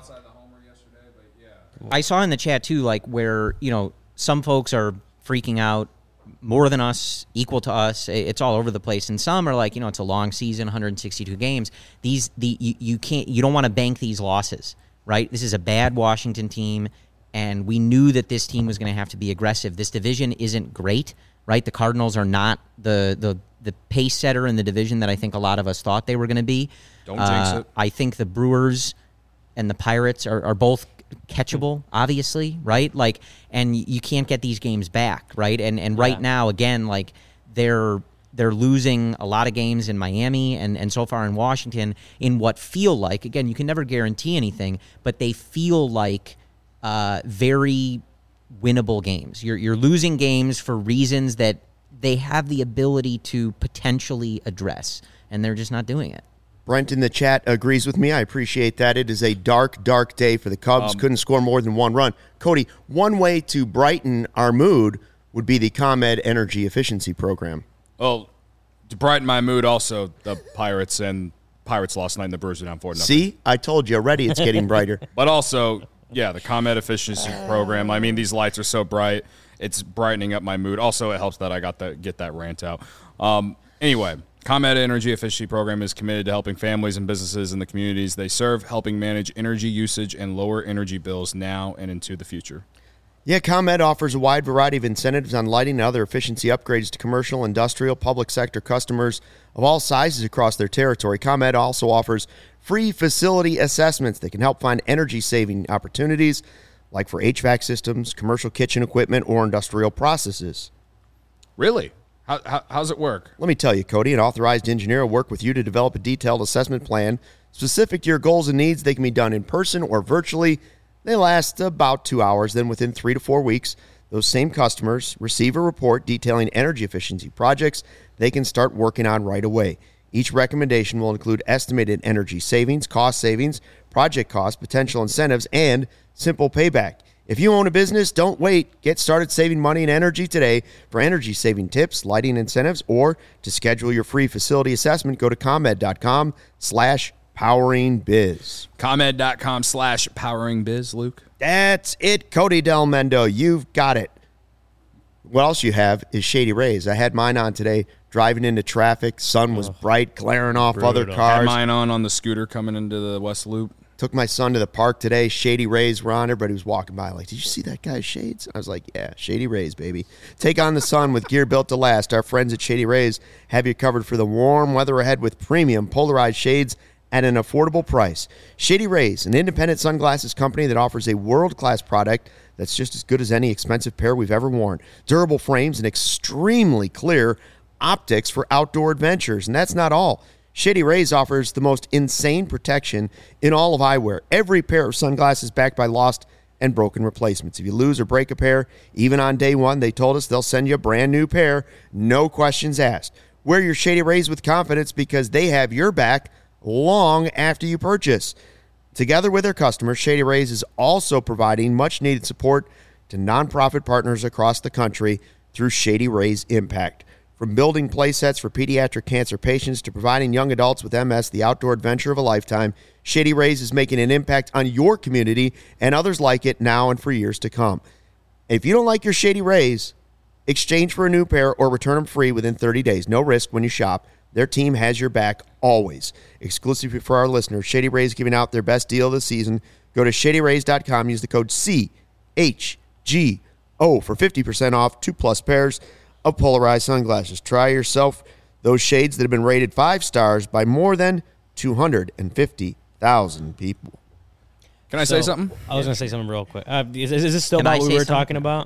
I saw in the chat, too, like, where, you know, some folks are freaking out more than us, equal to us. It's all over the place. And some are like, you know, it's a long season, one hundred sixty-two games. These, the you, you can't, you don't want to bank these losses, right? This is a bad Washington team, and we knew that this team was going to have to be aggressive. This division isn't great, right? The Cardinals are not the the the pace setter in the division that I think a lot of us thought they were going to be. Don't jinx uh, it. I think the Brewers and the Pirates are, are both catchable, obviously, right? Like, and you can't get these games back, right? And and right Yeah. now, again, like they're they're losing a lot of games in Miami and and so far in Washington in what feel like, again, you can never guarantee anything, but they feel like uh, very winnable games. You're you're losing games for reasons that they have the ability to potentially address, and they're just not doing it. Brent in the chat agrees with me. I appreciate that. It is a dark, dark day for the Cubs. Um, Couldn't score more than one run. Cody, one way to brighten our mood would be the ComEd Energy Efficiency Program. Well, to brighten my mood, also the Pirates and Pirates lost night and the Brewers are down four nothing. See, I told you already. It's getting brighter. But also, yeah, the ComEd Efficiency Program. I mean, these lights are so bright; it's brightening up my mood. Also, it helps that I got to get that rant out. Um, anyway. ComEd Energy Efficiency Program is committed to helping families and businesses in the communities they serve, helping manage energy usage and lower energy bills now and into the future. Yeah, ComEd offers a wide variety of incentives on lighting and other efficiency upgrades to commercial, industrial, public sector customers of all sizes across their territory. ComEd also offers free facility assessments that can help find energy-saving opportunities, like for H V A C systems, commercial kitchen equipment, or industrial processes. Really? How, how, how's it work? Let me tell you, Cody, an authorized engineer will work with you to develop a detailed assessment plan specific to your goals and needs. They can be done in person or virtually. They last about two hours. Then within three to four weeks, those same customers receive a report detailing energy efficiency projects they can start working on right away. Each recommendation will include estimated energy savings, cost savings, project costs, potential incentives, and simple payback. If you own a business, don't wait. Get started saving money and energy today. For energy-saving tips, lighting incentives, or to schedule your free facility assessment, go to ComEd.com slash Powering Biz. ComEd.com slash powering biz, Luke. That's it, Cody Del Mendo. You've got it. What else you have is Shady Rays. I had mine on today, driving into traffic. Sun was bright, glaring off other Brutal. cars. Had mine on on the scooter coming into the West Loop. Took my son to the park today. Shady Rays were on. Everybody was walking by like, did you see that guy's shades? I was like, yeah, Shady Rays, baby. Take on the sun with gear built to last. Our friends at Shady Rays have you covered for the warm weather ahead with premium polarized shades at an affordable price. Shady Rays, an independent sunglasses company that offers a world-class product that's just as good as any expensive pair we've ever worn. Durable frames and extremely clear optics for outdoor adventures. And that's not all. Shady Rays offers the most insane protection in all of eyewear. Every pair of sunglasses backed by lost and broken replacements. If you lose or break a pair, even on day one, they told us they'll send you a brand new pair. No questions asked. Wear your Shady Rays with confidence because they have your back long after you purchase. Together with their customers, Shady Rays is also providing much-needed support to nonprofit partners across the country through Shady Rays Impact. From building play sets for pediatric cancer patients to providing young adults with M S the outdoor adventure of a lifetime, Shady Rays is making an impact on your community and others like it now and for years to come. If you don't like your Shady Rays, exchange for a new pair or return them free within thirty days. No risk when you shop. Their team has your back always. Exclusively for our listeners, Shady Rays giving out their best deal of the season. Go to shady rays dot com. Use the code C H G O for fifty percent off two plus pairs of polarized sunglasses. Try yourself those shades that have been rated five stars by more than two hundred fifty thousand people. Can I So, say something? I was going to say something real quick. Uh, is, is this still Can about I what we say were something? talking about?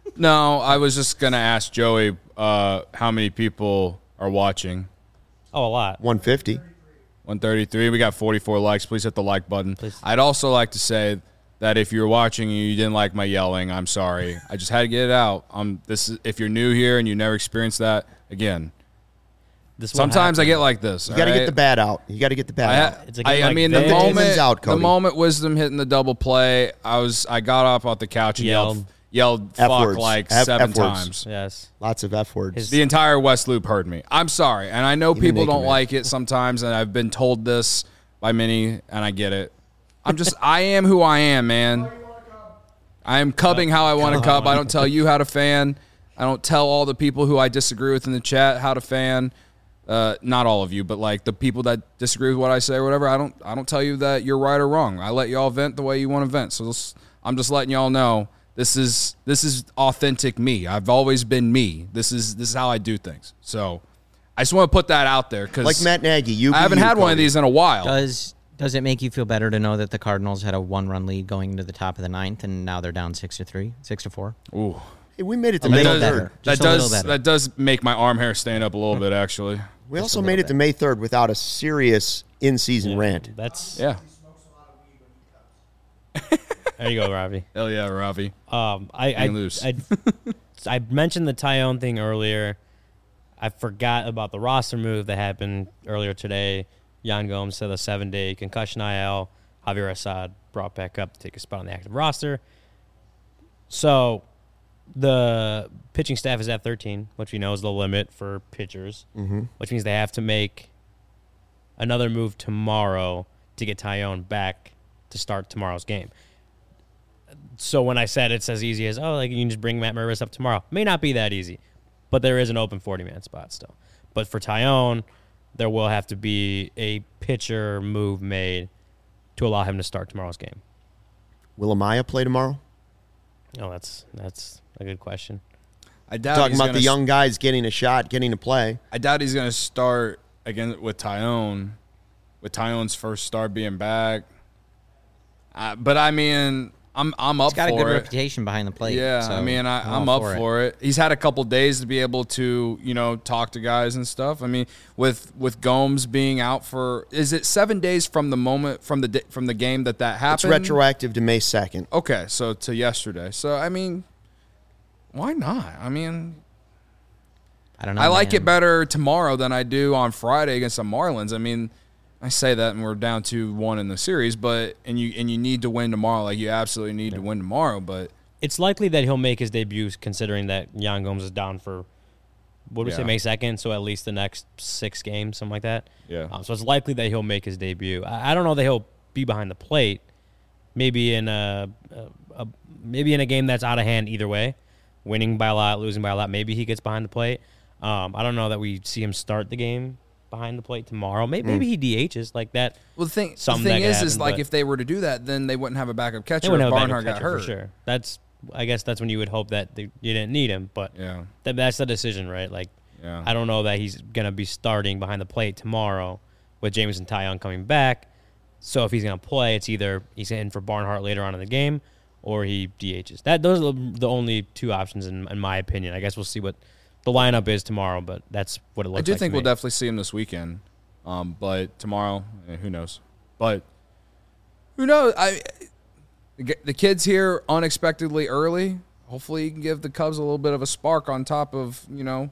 No, I was just going to ask Joey uh, how many people are watching. Oh, a lot. one fifty. one thirty-three. We got forty-four likes. Please hit the like button. Please. I'd also like to say that if you're watching and you didn't like my yelling, I'm sorry. I just had to get it out. Um, this is, if you're new here and you never experienced that, again, This won't sometimes I happen. get like this. You got to get the bad out. You got to get the bad I, out. It's a I, game I like mean, this. the Get the moment, demons out, the Cody. moment Wisdom hitting the double play, I was, I got up off the couch and yelled, Yelled. yelled, F fuck words. like F- seven F words. times. Yes. Lots of F words. His- The entire West Loop heard me. I'm sorry, and I know Even people Naked don't Man. like it sometimes, and I've been told this by many, and I get it. I'm just, I am who I am, man. I am cubbing how I want to cub. I don't tell you how to fan. I don't tell all the people who I disagree with in the chat how to fan. Uh, not all of you, but like the people that disagree with what I say or whatever. I don't, I don't tell you that you're right or wrong. I let y'all vent the way you want to vent. So this, I'm just letting y'all know this is this is authentic me. I've always been me. This is this is how I do things. So I just want to put that out there because like Matt Nagy. You. I haven't you, had one of Cody. these in a while. Does does it make you feel better to know that the Cardinals had a one-run lead going into the top of the ninth, and now they're down six to three, six to four? Ooh. Hey, we made it to A May little does- better. third. That Just a little does better. that does make my arm hair stand up a little bit actually. We Just also a made little it to bit. May third without a serious in-season rant. That's Yeah. There you go, Robbie. Hell yeah, Ravi. Um, I I, Hang loose. I I mentioned the Tyone thing earlier. I forgot about the roster move that happened earlier today. Jan Gomes said a seven-day concussion I L. Javier Assad brought back up to take a spot on the active roster. So the pitching staff is at thirteen, which we know is the limit for pitchers, Mm-hmm. which means they have to make another move tomorrow to get Tyone back to start tomorrow's game. So when I said it's as easy as, oh, like you can just bring Matt Mervis up tomorrow, may not be that easy, but there is an open forty-man spot still. But for Tyone, there will have to be a pitcher move made to allow him to start tomorrow's game. Will Amaya play tomorrow? Oh, that's that's a good question. I doubt Talking he's about gonna the s- young guys getting a shot, getting to play. I doubt he's gonna start again with Tyone, with Tyone's first start being back. Uh, but I mean, I'm I'm up He's got a for good it. reputation behind the plate. Yeah, so I mean, I, all I'm up for it. He's had a couple days to be able to, you know, talk to guys and stuff. I mean, with with Gomes being out for, is it seven days from the moment from the di- from the game that that It's happened? retroactive to May second. Okay, so to yesterday. So I mean, why not? I mean, I don't know. I like man. it better tomorrow than I do on Friday against the Marlins. I mean, I say that and we're down two one in the series, but and you and you need to win tomorrow. Like you absolutely need to win tomorrow. But It's likely that he'll make his debut, considering that Jan Gomes is down for what did we say, Yeah. May second, so at least the next six games, something like that. Yeah. Um, so it's likely that he'll make his debut. I, I don't know that he'll be behind the plate. Maybe in a, a, a maybe in a game that's out of hand either way, winning by a lot, losing by a lot. Maybe he gets behind the plate. Um, I don't know that we see him start the game behind the plate tomorrow. Maybe, maybe he D H's like that. Well, the thing, the Something thing that could is, is happen, like but- if they were to do that, then they wouldn't have a backup They catcher wouldn't if have a backup Barnhart got catcher hurt. for sure. That's I guess that's when you would hope that they, you didn't need him, but Yeah. that, that's the decision, right? Like Yeah. I don't know that he's gonna be starting behind the plate tomorrow with Jameson Taillon coming back. So if he's gonna play, it's either he's in for Barnhart later on in the game, or he D Hs. That those are the only two options in, in my opinion. I guess we'll see what the lineup is tomorrow, but that's what it looks I do like. think to we'll me. definitely see him this weekend, um, but tomorrow, eh, who knows? But who knows? I the the kid's here unexpectedly early. Hopefully, he can give the Cubs a little bit of a spark on top of you know.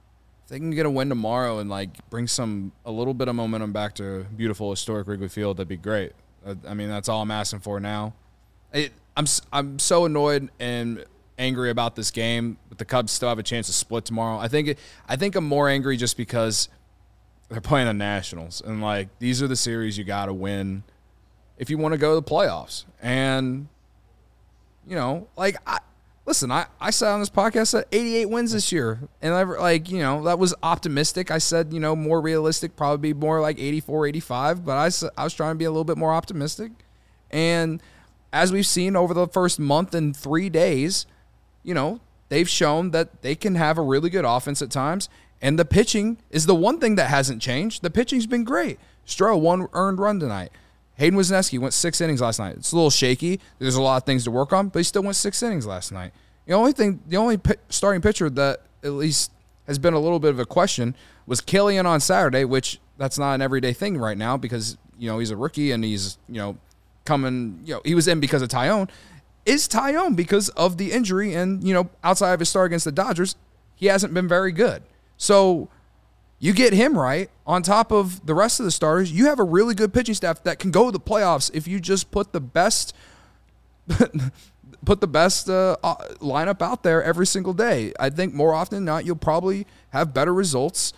If they can get a win tomorrow and like bring some a little bit of momentum back to beautiful historic Wrigley Field, that'd be great. I, I mean, that's all I'm asking for now. It, I'm s- I'm so annoyed and angry about this game, but the Cubs still have a chance to split tomorrow. I think it, I think I'm more angry just because they're playing the Nationals, and like these are the series you got to win if you want to go to the playoffs. And you know, like I listen, I I said on this podcast that eighty-eight wins this year, and I like you know that was optimistic. I said you know more realistic, probably be more like eighty-four, eighty-five, but I s- I was trying to be a little bit more optimistic, and as we've seen over the first month and three days, you know, they've shown that they can have a really good offense at times. And the pitching is the one thing that hasn't changed. The pitching's been great. Stroh, one earned run tonight. Hayden Wesneski went six innings last night. It's a little shaky. There's a lot of things to work on, but he still went six innings last night. The only thing, the only p- starting pitcher that at least has been a little bit of a question was Killian on Saturday, which that's not an everyday thing right now because, you know, he's a rookie and he's, you know, coming, you know, he was in because of Taillon. Is Taillon because of the injury and, you know, outside of his start against the Dodgers, he hasn't been very good. So you get him right on top of the rest of the starters. You have a really good pitching staff that can go to the playoffs if you just put the best put the best uh, lineup out there every single day. I think more often than not, you'll probably have better results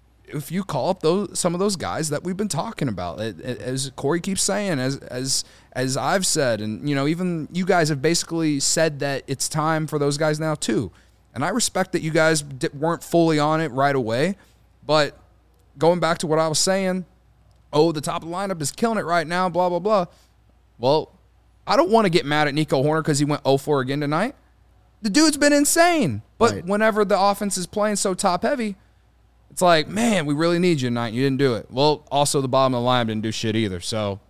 if you call up those some of those guys that we've been talking about, as Corey keeps saying, as as as I've said, and you know, even you guys have basically said that it's time for those guys now too. And I respect that you guys weren't fully on it right away, but going back to what I was saying, oh, the top of the lineup is killing it right now, blah blah blah. Well, I don't want to get mad at Nico Hoerner because he went oh for again tonight. The dude's been insane, but Right. whenever the offense is playing so top heavy, it's like, man, we really need you tonight. You didn't do it. Well, also the bottom of the line didn't do shit either. So,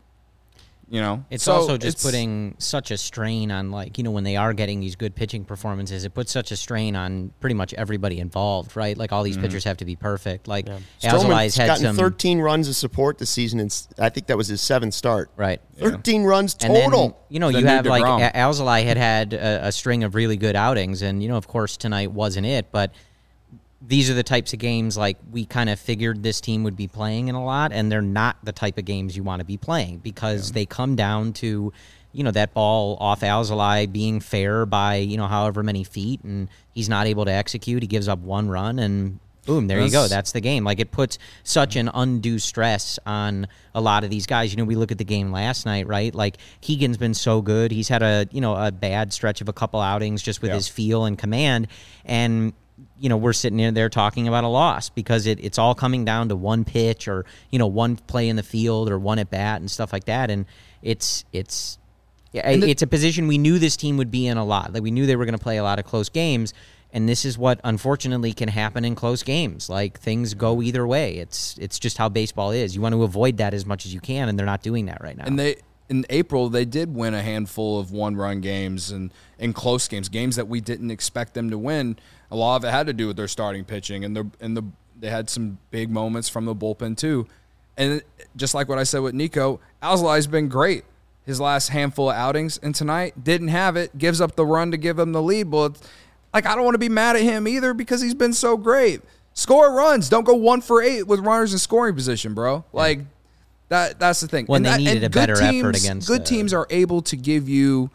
you know, It's so also just it's- putting such a strain on, like, you know, when they are getting these good pitching performances, it puts such a strain on pretty much everybody involved, right? Like, all these Mm-hmm. pitchers have to be perfect. Like, Stroman's Alzolai's had gotten some... thirteen runs of support this season, and s- I think that was his seventh start. Right. thirteen runs And total. then, you know, Then you new have, like, DeGrom. A- Alzolai had had a, a string of really good outings, and, you know, of course, tonight wasn't it, but these are the types of games, like, we kind of figured this team would be playing in a lot, and they're not the type of games you want to be playing because they come down to, you know, that ball off Alzolai being fair by, you know, however many feet, and he's not able to execute. He gives up one run, and boom, there you go. That's- That's the game. Like, it puts such an undue stress on a lot of these guys. You know, we look at the game last night, right? Like, Keegan's been so good. He's had a, you know, a bad stretch of a couple outings just with Yeah. his feel and command, and you know, we're sitting in there talking about a loss because it, it's all coming down to one pitch or, you know, one play in the field or one at bat and stuff like that. And it's, it's, yeah, the- it's a position we knew this team would be in a lot. Like, we knew they were going to play a lot of close games. And this is what unfortunately can happen in close games. Like, things go either way. It's, it's just how baseball is. You want to avoid that as much as you can. And they're not doing that right now. And they in April they did win a handful of one-run games and in close games, games that we didn't expect them to win. A lot of it had to do with their starting pitching, and the and the they had some big moments from the bullpen too. And just like what I said with Nico, Alzolai's been great his last handful of outings, and tonight didn't have it. Gives up the run to give him the lead. Well, it's, like, I don't want to be mad at him either because he's been so great. Score runs. Don't go one for eight with runners in scoring position, bro. Like. That that's the thing. When And they that- needed and a good better effort teams- against, good uh, teams are able to give you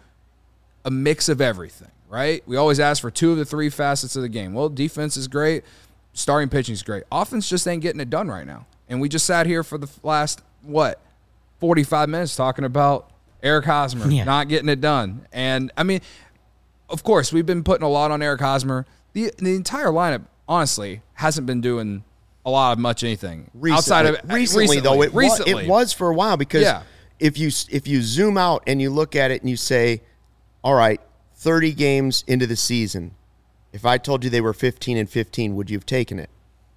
a mix of everything, right? We always ask for two of the three facets of the game. Well, defense is great. starting pitching is great. Offense just ain't getting it done right now. And we just sat here for the last, what, forty-five minutes talking about Eric Hosmer Yeah. not getting it done. And, I mean, of course, we've been putting a lot on Eric Hosmer. The, the entire lineup, honestly, hasn't been doing a lot of much anything. Recently, Outside of recently, recently though, it, recently. Was, it was for a while because Yeah. if you if you zoom out and you look at it and you say, all right, thirty games into the season, if I told you they were fifteen and fifteen, would you have taken it?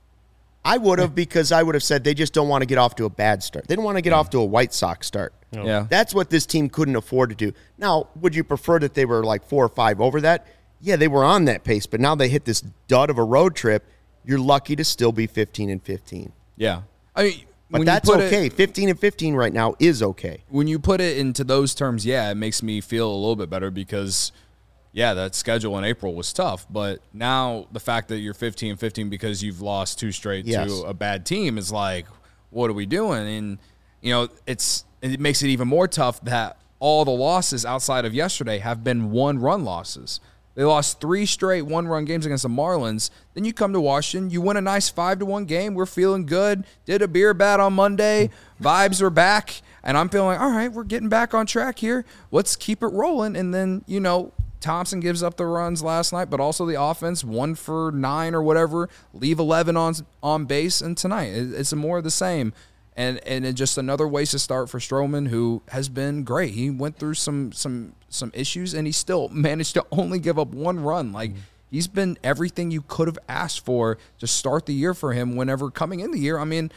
I would have because I would have said they just don't want to get off to a bad start. They don't want to get off to a White Sox start. Yeah. That's what this team couldn't afford to do. Now, would you prefer that they were like four or five over that? Yeah, they were on that pace, but now they hit this dud of a road trip. You're lucky to still be fifteen and fifteen. Yeah. I mean, But when that's you put okay. It, fifteen and fifteen right now is okay. when you put it into those terms, yeah, it makes me feel a little bit better because, yeah, that schedule in April was tough. But now the fact that you're fifteen and fifteen because you've lost two straight Yes. to a bad team is like, what are we doing? And, you know, it's it makes it even more tough that all the losses outside of yesterday have been one-run losses. They lost three straight one-run games against the Marlins. Then you come to Washington, you win a nice five to one game. We're feeling good. Did a beer bat on Monday. Vibes are back. And I'm feeling, all right, we're getting back on track here. Let's keep it rolling. And then, you know, Thompson gives up the runs last night, but also the offense, one for nine or whatever, leave eleven on on base. And tonight, it's more of the same. And and it's just another wasted start for Stroman, who has been great. He went through some some some issues, and he still managed to only give up one run. Like, mm-hmm. he's been everything you could have asked for to start the year for him whenever coming in the year. I mean,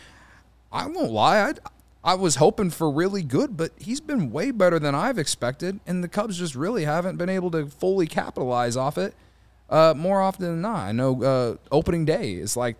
I won't lie. I I was hoping for really good, but he's been way better than I've expected, and the Cubs just really haven't been able to fully capitalize off it uh, more often than not. I know uh, opening day is like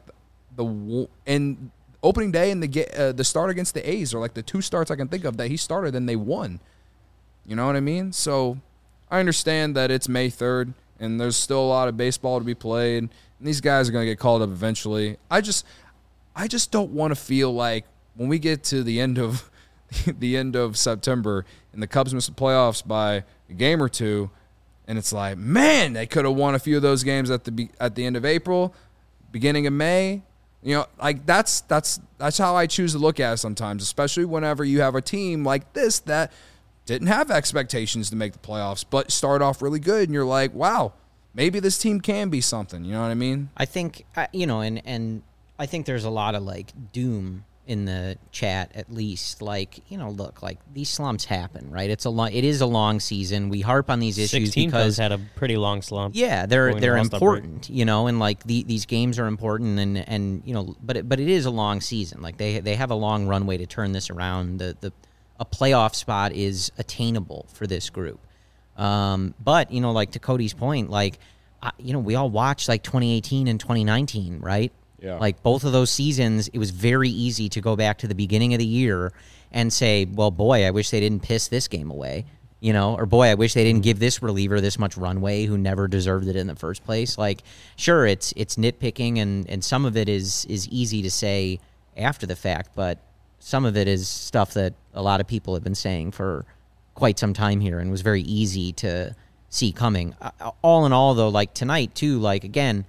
the – and – Opening day and the uh, the start against the A's are like the two starts I can think of that he started and they won. You know what I mean? So I understand that it's May third and there's still a lot of baseball to be played. And these guys are going to get called up eventually. I just I just don't want to feel like when we get to the end of the end of September and the Cubs miss the playoffs by a game or two, and it's like, man, they could have won a few of those games at the at the end of April, beginning of May. You know, like that's that's that's how I choose to look at it sometimes, especially whenever you have a team like this that didn't have expectations to make the playoffs, but start off really good, and you're like, wow, maybe this team can be something. You know what I mean? I think, uh, you know, and, and I think there's a lot of, like, doom in the chat, at least. Like, you know, look, like, these slumps happen, right? It's a long, it is a long season. We harp on these issues sixteen because Cubs had a pretty long slump. yeah, they're Going they're lost that important, you know, and like the, these games are important, and, and you know, but it, but it is a long season. Like they they have a long runway to turn this around. The the a playoff spot is attainable for this group. Um, but you know, like to Cody's point, like I, you know, we all watched like twenty eighteen and twenty nineteen, right? Yeah. Like both of those seasons, it was very easy to go back to the beginning of the year and say, well, boy, I wish they didn't piss this game away, you know, or boy, I wish they didn't give this reliever this much runway who never deserved it in the first place. Like, sure, it's it's nitpicking, and, and some of it is is easy to say after the fact, but some of it is stuff that a lot of people have been saying for quite some time here and was very easy to see coming. Uh, all in all, though, like tonight, too, like, again,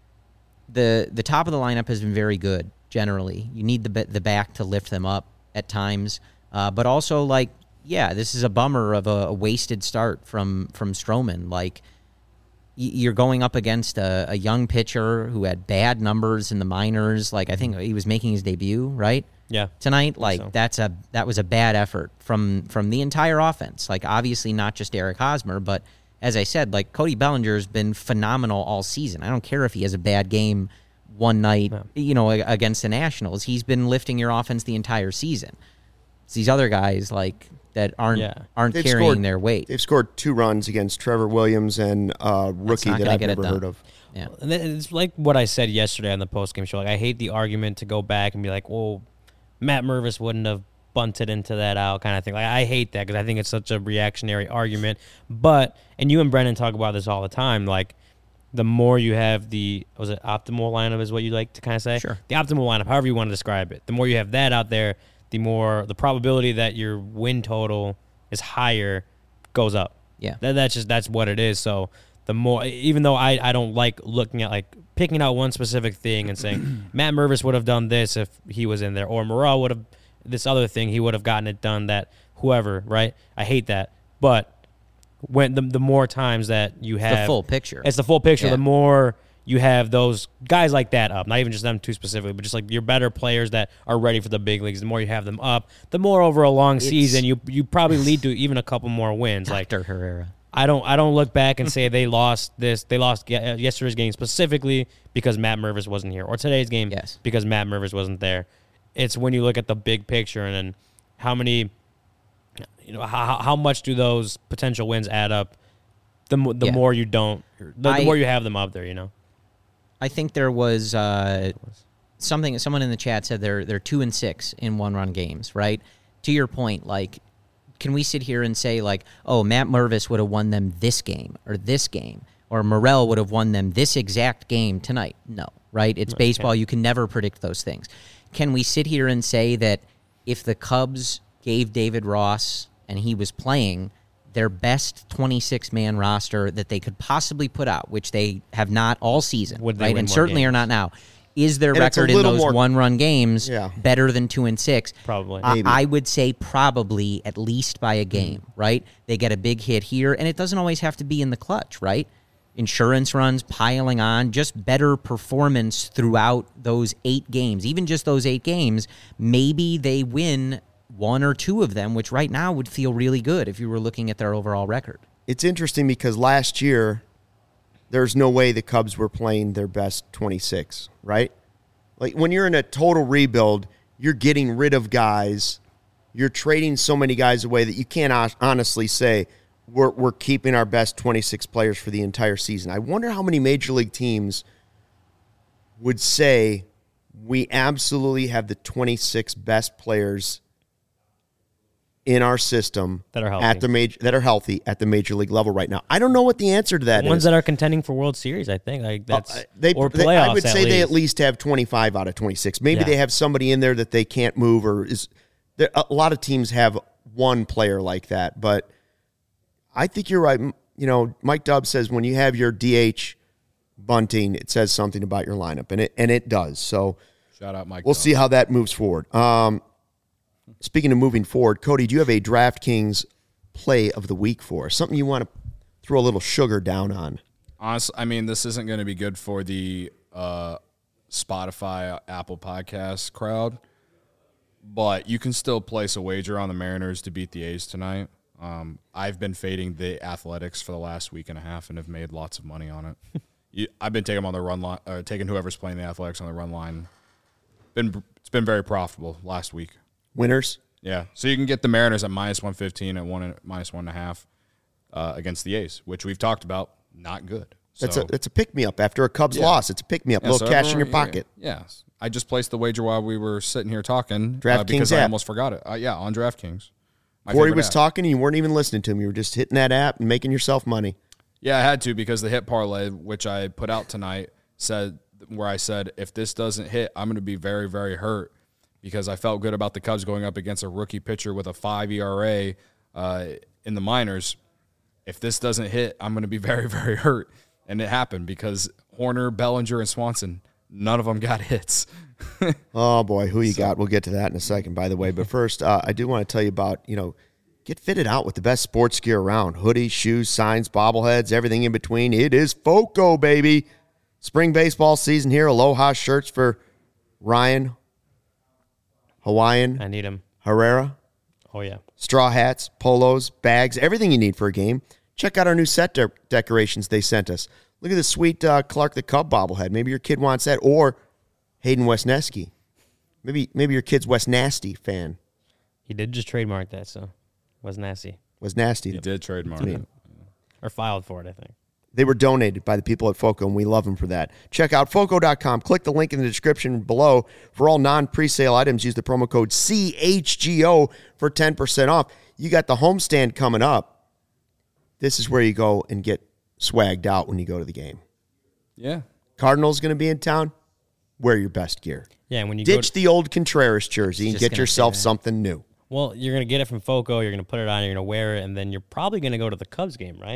the the top of the lineup has been very good generally. You need the the back to lift them up at times, uh, but also like yeah, this is a bummer of a, a wasted start from from Stroman. Like y- you're going up against a, a young pitcher who had bad numbers in the minors. Like I think he was making his debut right Yeah. tonight. Like so. that's a that was a bad effort from from the entire offense. Like obviously not just Eric Hosmer, but as I said, like Cody Bellinger has been phenomenal all season. I don't care if he has a bad game one night, no. you know, against the Nationals. He's been lifting your offense the entire season. It's these other guys like that aren't Yeah. aren't They've carrying scored- their weight. They've scored two runs against Trevor Williams and a rookie not that gonna I've get it never done. heard of. Yeah. And then it's like what I said yesterday on the postgame show. Like I hate the argument to go back and be like, well, Matt Mervis wouldn't have bunted into that out kind of thing. Like I hate that because I think it's such a reactionary argument. But, and you and Brennan talk about this all the time, like the more you have the, was it optimal lineup is what you like to kind of say? Sure. The optimal lineup, however you want to describe it. The more you have that out there, the more, the probability that your win total is higher goes up. Yeah. That, that's just, that's what it is. So the more, even though I, I don't like looking at, like, picking out one specific thing and saying, Matt Mervis would have done this if he was in there, or Morel would have, this other thing, he would have gotten it done, that whoever, right? I hate that. But when the, the more times that you have. The full picture. It's the full picture. Yeah. The more you have those guys like that up, not even just them two specifically, but just like your better players that are ready for the big leagues, the more you have them up, the more over a long It's, season, you you probably lead to even a couple more wins. Doctor Like Herrera. I don't I don't look back and say they lost this, they lost yesterday's game specifically because Matt Mervis wasn't here, or today's game Yes. because Matt Mervis wasn't there. It's when you look at the big picture and then how many, you know, how how much do those potential wins add up? The mo- the Yeah. more you don't, the, the I- more you have them up there, you know. I think there was uh, something. Someone in the chat said they're they're two and six in one run games. Right. To your point, like, can we sit here and say like, oh, Matt Mervis would have won them this game or this game, or Morel would have won them this exact game tonight? No. Right. It's baseball. You can never predict those things. Can we sit here and say that if the Cubs gave David Ross and he was playing their best twenty-six man roster that they could possibly put out, which they have not all season, Would they right? win And more certainly games? are not now. Is their And it's a record in little those more- one-run games Yeah. better than two and six? Probably. I, Maybe. I would say probably at least by a game, right? They get a big hit here, and it doesn't always have to be in the clutch, right? Insurance runs piling on, just better performance throughout those eight games. Even just those eight games, maybe they win one or two of them, which right now would feel really good if you were looking at their overall record. It's interesting because last year, there's no way the Cubs were playing their best twenty-six, right? Like when you're in a total rebuild, you're getting rid of guys. You're trading so many guys away that you can't hon- honestly say we're, we're keeping our best twenty-six players for the entire season. I wonder how many major league teams would say we absolutely have the twenty-six best players in our system That are healthy. at the major that are healthy at the major league level right now. I don't know what the answer to that The ones is. that are contending for World Series, I think. Like that's Uh, they, or they- playoffs. I would say at they at least. least have twenty-five out of twenty-six. Maybe Yeah. they have somebody in there that they can't move, or is there, a lot of teams have one player like that. But I think you're right. M- You know, Mike Dubb says when you have your D H bunting, it says something about your lineup, and it and it does. So Shout out Mike. we'll Dubb. see how that moves forward. Um, speaking of moving forward, Cody, do you have a DraftKings play of the week for us? Something you want to throw a little sugar down on? Honestly, I mean, this isn't going to be good for the uh, Spotify, Apple Podcast crowd, but you can still place a wager on the Mariners to beat the A's tonight. Um, I've been fading the Athletics for the last week and a half and have made lots of money on it. you, I've been taking them on the run line, uh, taking whoever's playing the Athletics on the run line. Been it's been very profitable last week. Winners? Yeah, so you can get the Mariners at minus one fifteen at one minus one and a half uh, against the A's, which we've talked about, not good. That's so, a that's a pick me up after a Cubs Yeah. loss. It's a pick me up, Yeah, little so cash in your everyone- pocket. Yeah, yes. I just placed the wager while we were sitting here talking uh, DraftKings because I app. almost forgot it. Uh, yeah, on DraftKings. My Corey favorite was app. talking, and you weren't even listening to him. You were just hitting that app and making yourself money. Yeah, I had to because the hit parlay, which I put out tonight, said where I said if this doesn't hit, I'm going to be very, very hurt because I felt good about the Cubs going up against a rookie pitcher with a five E R A uh, in the minors. If this doesn't hit, I'm going to be very, very hurt. And it happened because Horner, Bellinger, and Swanson, none of them got hits. Oh boy, who you got? We'll get to that in a second, by the way. But first, uh, I do want to tell you about, you know, get fitted out with the best sports gear around: hoodies, shoes, signs, bobbleheads, everything in between. It is FOCO, baby. Spring baseball season here. Aloha shirts for Ryan, Hawaiian, I need him. Herrera. Oh yeah. Straw hats, polos, bags, everything you need for a game. Check out our new set de- decorations they sent us. Look at this sweet uh, Clark the Cub bobblehead. Maybe your kid wants that. Or Hayden Wesneski. Maybe maybe your kid's Wes Nasty fan. He did just trademark that, so was nasty Was Nasty. He did trademark me. it. or filed for it, I think. They were donated by the people at FOCO, and we love them for that. Check out foco dot com. Click the link in the description below. For all non-presale items, use the promo code C H G O for ten percent off. You got the homestand coming up. This is where you go and get swagged out when you go to the game. Yeah. Cardinals going to be in town. Wear your best gear. Yeah, and when you go Ditch to, the old Contreras jersey and Just get gonna say yourself that. something new. well, you're gonna get it from FOCO. You're gonna put it on. You're gonna wear it, and then you're probably gonna go to the Cubs game, right?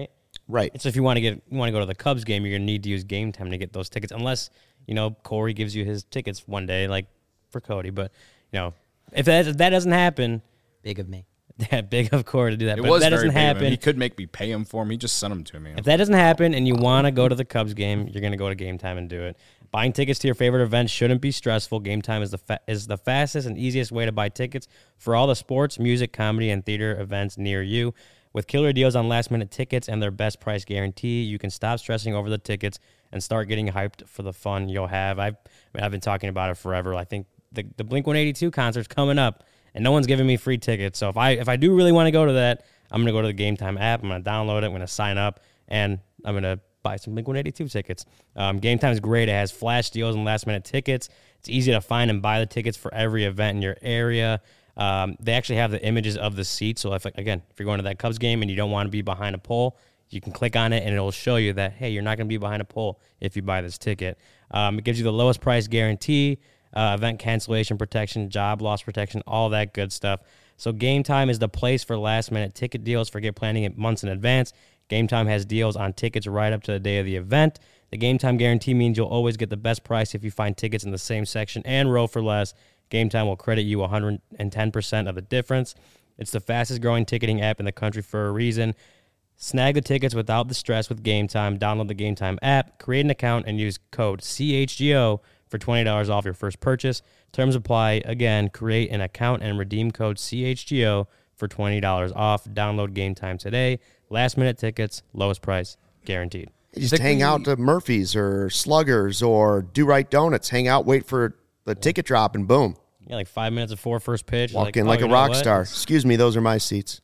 Right. And so if you want to get you want to go to the Cubs game, you're gonna need to use Game Time to get those tickets, unless you know Corey gives you his tickets one day, like for Cody. But you know, if that if that doesn't happen, Big of me. that big of Corey to do that. It but was if that very doesn't big of him. happen, He could make me pay him for him. He just sent them to me. if that doesn't happen, and you want to go to the Cubs game, you're gonna go to Game Time and do it. Buying tickets to your favorite events shouldn't be stressful. Game Time is the fa- is the fastest and easiest way to buy tickets for all the sports, music, comedy, and theater events near you. With killer deals on last-minute tickets and their best price guarantee, you can stop stressing over the tickets and start getting hyped for the fun you'll have. I've, I mean, I've been talking about it forever. I think the, the Blink one eighty-two concert's coming up, and no one's giving me free tickets. So if I if I do really want to go to that, I'm going to go to the Game Time app. I'm going to download it. I'm going to sign up, and I'm going to buy some Blink one eighty-two tickets. Um, Game Time is great. It has flash deals and last-minute tickets. It's easy to find and buy the tickets for every event in your area. Um, they actually have the images of the seats. So, if again, if you're going to that Cubs game and you don't want to be behind a pole, you can click on it, and it'll show you that, hey, you're not going to be behind a pole if you buy this ticket. Um, it gives you the lowest price guarantee, uh, event cancellation protection, job loss protection, all that good stuff. So Game Time is the place for last-minute ticket deals. Forget planning it months in advance. Game Time has deals on tickets right up to the day of the event. The Game Time guarantee means you'll always get the best price if you find tickets in the same section and row for less. Game Time will credit you one hundred ten percent of the difference. It's the fastest-growing ticketing app in the country for a reason. Snag the tickets without the stress with Game Time. Download the Game Time app, create an account, and use code C H G O for twenty dollars off your first purchase. Terms apply. Again, create an account and redeem code C H G O for twenty dollars off. Download Game Time today. Last-minute tickets, lowest price, guaranteed. You just hang out to Murphy's or Sluggers or Do Right Donuts. Hang out, wait for the ticket drop, and boom. Yeah, like five minutes before first pitch. Walk like, in oh, like you a know rock what? star. Excuse me, those are my seats.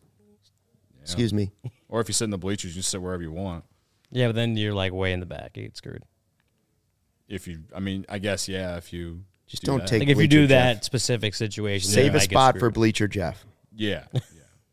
Excuse me. Or if you sit in the bleachers, you sit wherever you want. Yeah, but then you're like way in the back. You get screwed. If you, I mean, I guess, yeah, if you Just do don't that. take Like if you do Bleacher that Jeff. specific situation, then Save you a might get spot for screwed. Bleacher Jeff. Yeah, yeah.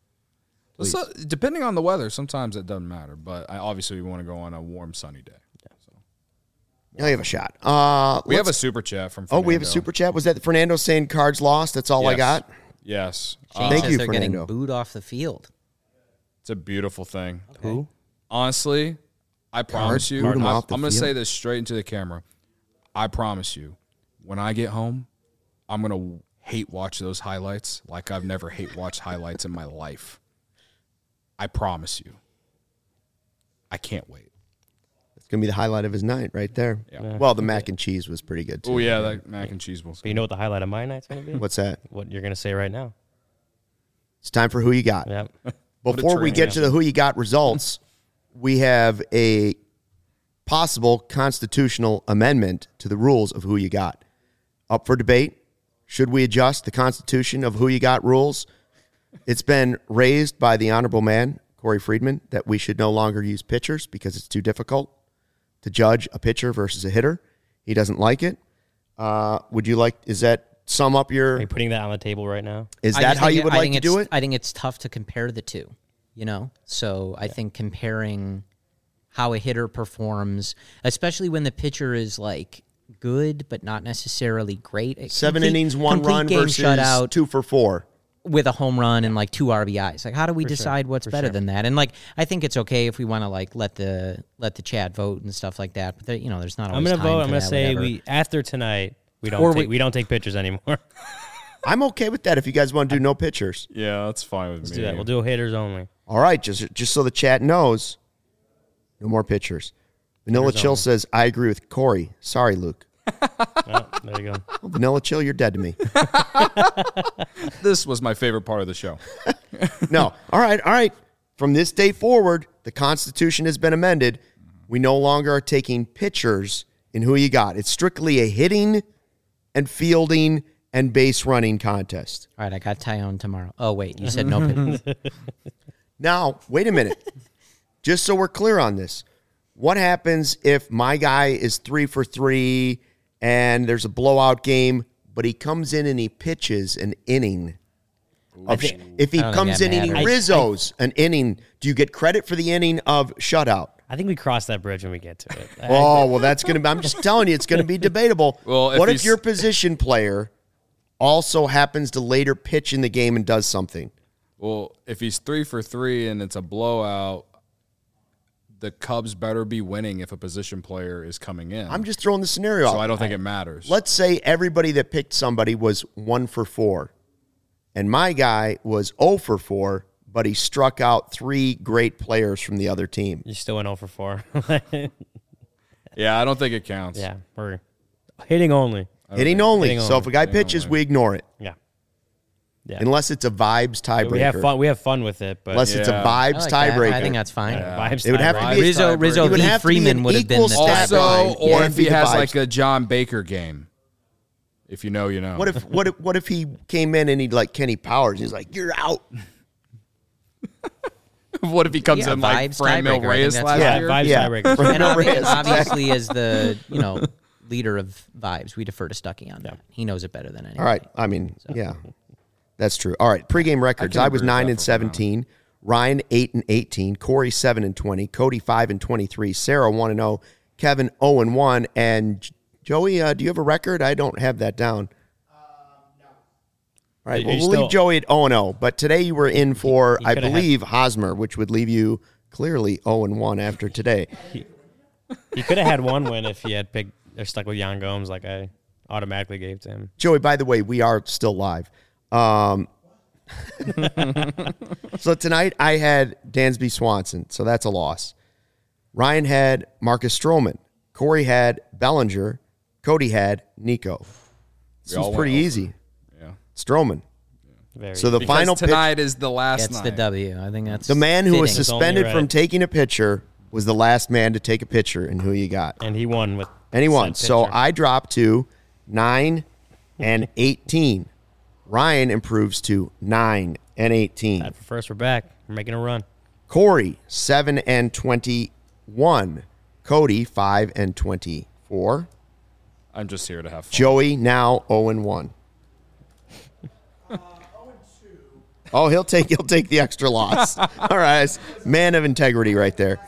So, depending on the weather, sometimes it doesn't matter. But I obviously we want to go on a warm, sunny day. So. Yeah, you have a shot. Uh, We have a let's- super chat from. Oh, Fernando. we have a super chat. Was that Fernando saying cards lost? That's all I Yes. got. Yes, Shane Uh, Thank says you, they're Fernando. getting booed off the field. it's a beautiful thing. Who? Honestly, I promise you. boot 'em I, off the I'm going to field. say this straight into the camera. I promise you, when I get home, I'm going to hate watch those highlights like I've never hate watched highlights in my life. I promise you. I can't wait. It's gonna be the highlight of his night right there. Yeah. Well, the mac and cheese was pretty good too. Oh yeah, that mac and cheese will. But you know what the highlight of my night's going to be? What's that? What you're going to say right now. It's time for who you got. Yep. Before we train, get yeah. to the who you got results, we have a possible constitutional amendment to the rules of who you got. Up for debate. Should we adjust the Constitution of who you got rules? It's been raised by the honorable man, Corey Friedman, that we should no longer use pitchers because it's too difficult to judge a pitcher versus a hitter. He doesn't like it. Uh, would you like, is that sum up Are your, you putting that on the table right now? is I that just how think you it- would I like think to do it's- it? I think it's tough to compare the two, you know? So I think comparing how a hitter performs, especially when the pitcher is like good but not necessarily great. a Seven complete- innings, one complete run game versus shutout two for four. with a home run and like two R B Is. Like, how do we For sure, decide what's for better sure. than that? And like, I think it's okay if we want to like let the let the chat vote and stuff like that. But there, you know, there's not I'm always going to time vote. for I'm going to that, say whatever. we after tonight we don't Or take, we- we, don't take pictures anymore. I'm okay with that if you guys want to do no pitchers. Yeah, that's fine with Let's me. do that. We'll do hitters only. All right, just just so the chat knows, no more pitchers. Vanilla Hitters Chill only. says, I agree with Corey. Sorry, Luke. Oh, there you go. Well, Vanilla Chill, you're dead to me. This was my favorite part of the show. No. All right, all right. From this day forward, the Constitution has been amended. We no longer are taking pitchers in who you got. It's strictly a hitting and fielding and base running contest. All right, I got Tyone tomorrow. Oh wait, you said no pitcher. Now, wait a minute. Just so we're clear on this, what happens if my guy is three for three and there's a blowout game, but he comes in and he pitches an inning? Of sh- if he I don't think comes that in and he matters. Rizzo's an inning, do you get credit for the inning of shutout? I think we cross that bridge when we get to it. I- Oh, well, that's going to be, I'm just telling you, it's going to be debatable. Well, if what if he's- your position player also happens to later pitch in the game and does something? Well, if he's three for three and it's a blowout, the Cubs better be winning if a position player is coming in. I'm just throwing the scenario so out. I don't think it matters. Let's say everybody that picked somebody was one for four, and my guy was zero for four, but he struck out three great players from the other team. You still went zero for four. Yeah, I don't think it counts. Yeah, we're hitting only. Hitting only. Hitting so only. if a guy Hitting pitches, only. we ignore it. Yeah. Yeah. Unless it's a vibes tiebreaker. We have fun. We have fun with it, but Unless it's a Yeah. I vibes like that. tiebreaker. I think that's fine. yeah, vibes It would have to tiebreaker. be a Rizzo, tiebreaker. Rizzo It would v. have to be Freeman an would have been equal the stat tiebreaker. line. Also, Yeah, or it'd if be he the has vibes. like a John Baker game. If you know, you know. What if what if what if he came in and he'd like Kenny Powers? He's like, "You're out." what if he comes Yeah, in like vibes Fran Mil tiebreaker. I Reyes think last that's- Yeah, year? vibes Yeah. tiebreaker. And obvi- Reyes, obviously, as the you know leader of vibes, we defer to Stuckey on that. He knows it better than anyone. All right. I mean, yeah, that's true. All right. Pregame records. I I, can was agree with nine that and for now. seventeen. Ryan eight and eighteen. Corey seven and twenty. Cody five and twenty-three. Sarah one and zero. Kevin zero and one. And J- Joey, uh, do you have a record? I don't have that down. All right, Are well, you we'll still- leave Joey at oh and oh. But today you were in for, He I coulda had- believe, Hosmer, which would leave you clearly oh and one after today. He could have had one win if he had picked or stuck with Jan Gomes, like I automatically gave to him. Joey, by the way, we are still live. Um, so tonight I had Dansby Swanson, so that's a loss. Ryan had Marcus Stroman. Corey had Bellinger. Cody had Nico. This We all was pretty went easy. Yeah. Stroman. Very So the Because final pitch, tonight is the last That's night. the W. I think that's the man who was fitting. sus- suspended only from right. taking a picture was the last man to take a picture, and who you got? and he won with And he won. said So pitcher. I dropped to nine and eighteen. Ryan improves to nine and eighteen. Tied for first. We're back. We're making a run. Corey, seven and twenty-one. Cody, five and twenty-four. I'm just here to have fun. Joey, now oh and one. Oh, he'll take he'll take the extra loss. All right, man of integrity right there.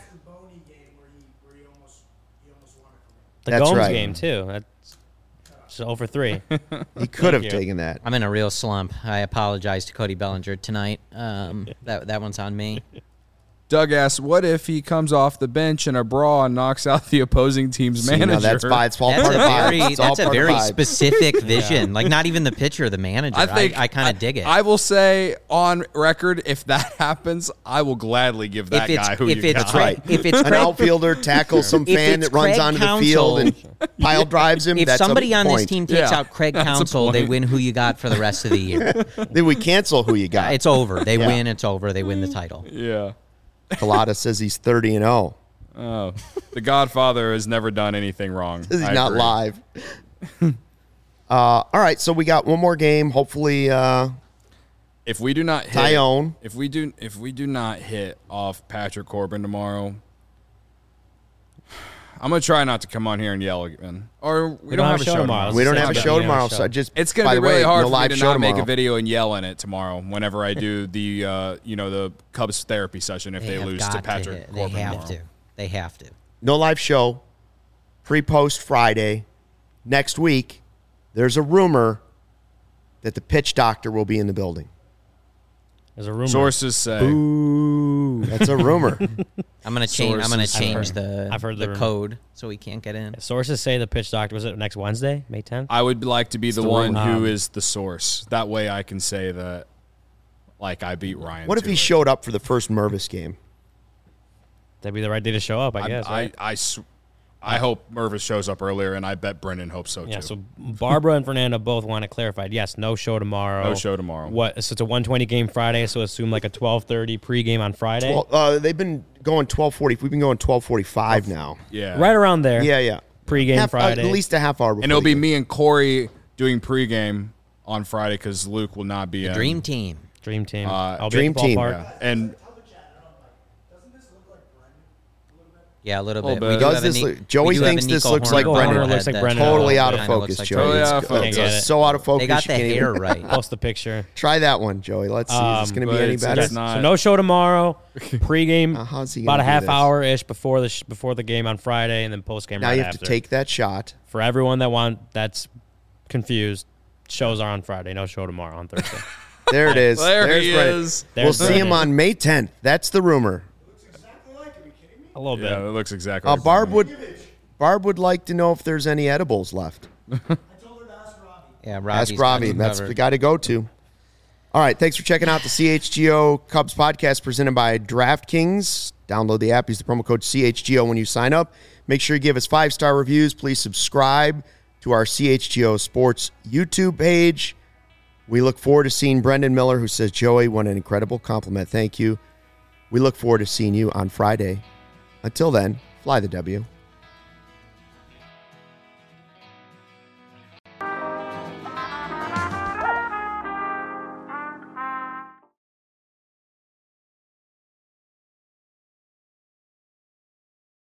The That's Gomes right. game too. That's so over three. He could have you. taken that. I'm in a real slump. I apologize to Cody Bellinger tonight. Um, that that one's on me. Doug asks, what if he comes off the bench in a brawl and knocks out the opposing team's See, manager? now that's by it's all That's part a of vibe. very It's all that's a part of very vibe. specific vision. Like not even the pitcher, the manager. I think I, I kind of dig it. I will say on record, if that happens, I will gladly give that if it's guy who if you it's got. Craig, if it's An Craig, outfielder tackles some If fan it's that runs Craig onto the Counsell- field and pile drives him. if that's somebody a on point. this team takes Yeah, out Craig that's a Counsell, they point. win who you got for the rest of the year. Then we cancel who you got. It's over. They Yeah. win. It's over. They win the title. Yeah. Colada says he's thirty and oh. Oh, the Godfather has never done anything wrong. He's I not agree. live. uh, all right, so we got one more game. Hopefully, uh, If we do not hit, Tyone. if we do, if we do not hit off Patrick Corbin tomorrow, I'm gonna try not to come on here and yell again. Or we, don't, have a show tomorrow. we don't Say have a about show the tomorrow. show. So I just It's gonna by be the really way, hard no for me live to show not make tomorrow. a video and yell in it tomorrow. Whenever I do the, uh, you know, the Cubs therapy session, if they, have lose got to Patrick hit. Corbin They have tomorrow. to. They have to. No live show. Pre-post Friday. Next week, there's a rumor that the pitch doctor will be in the building. There's a rumor. Sources say. Ooh, that's a rumor. I'm gonna change. I'm gonna Sources. change I've the I've heard the the rumor. code so we can't get in. Sources say the pitch doctor was it next Wednesday, May tenth. I would like to be the the one rumor. who Um, is the source. That way, I can say that, like, I beat Ryan. What if to he it. showed up for the first Mervis game? That'd be the right day to show up, I I, guess. I, right? I, sw- I hope Mervis shows up earlier, and I bet Brendan hopes so Yeah, too. so Barbara and Fernando both want it clarified. Yes, no show tomorrow. No show tomorrow. What? So it's a one twenty game Friday. So assume like a twelve thirty pregame on Friday. Well, uh, they've been going twelve forty. We've been going twelve forty-five now. yeah, right around there. Yeah, yeah. Pregame Half- uh, Friday. at least a half hour before. and it'll the be game. me and Corey doing pregame on Friday because Luke will not be in. Dream team. Dream team. Uh, I'll Dream be at the team. ballpark. Yeah. And Yeah, a little Little bit. bit. We do Does have a this Ni- look- Joey we do have a thinks this Nico looks Horner like Nico Brendan. Horner looks like that, Brendan. uh, Totally out of kinda looks focus, like Joey. Brendan. Totally It's, out of focus. it's, Can't get it. so out of focus. They got you the can't even- hair right. Post the picture. Try that one, Joey. Let's see. Is this Um, going to but be any it's better? just not- So no show tomorrow. Pregame Uh, how's he about gonna a do half this? hour ish before the sh- before the game on Friday, and then post game. Now right you have after. to take that shot. For everyone that want that's confused, shows are on Friday. No show tomorrow on Thursday. There it is. there There's he Brendan. is. We'll There's see him Brendan. on May tenth. That's the rumor. A little Yeah, bit. it looks exactly. Uh, like Barb that. would Barb would like to know if there's any edibles left. Yeah, Robbie's Ask got Robbie. you That's covered. the guy to go to. All right. Thanks for checking out the C H G O Cubs podcast presented by DraftKings. Download the app. Use the promo code C H G O when you sign up. Make sure you give us five-star reviews. Please subscribe to our C H G O Sports YouTube page. We look forward to seeing Brendan Miller, who says, Joey, what an incredible compliment. Thank you. We look forward to seeing you on Friday. Until then, fly the W.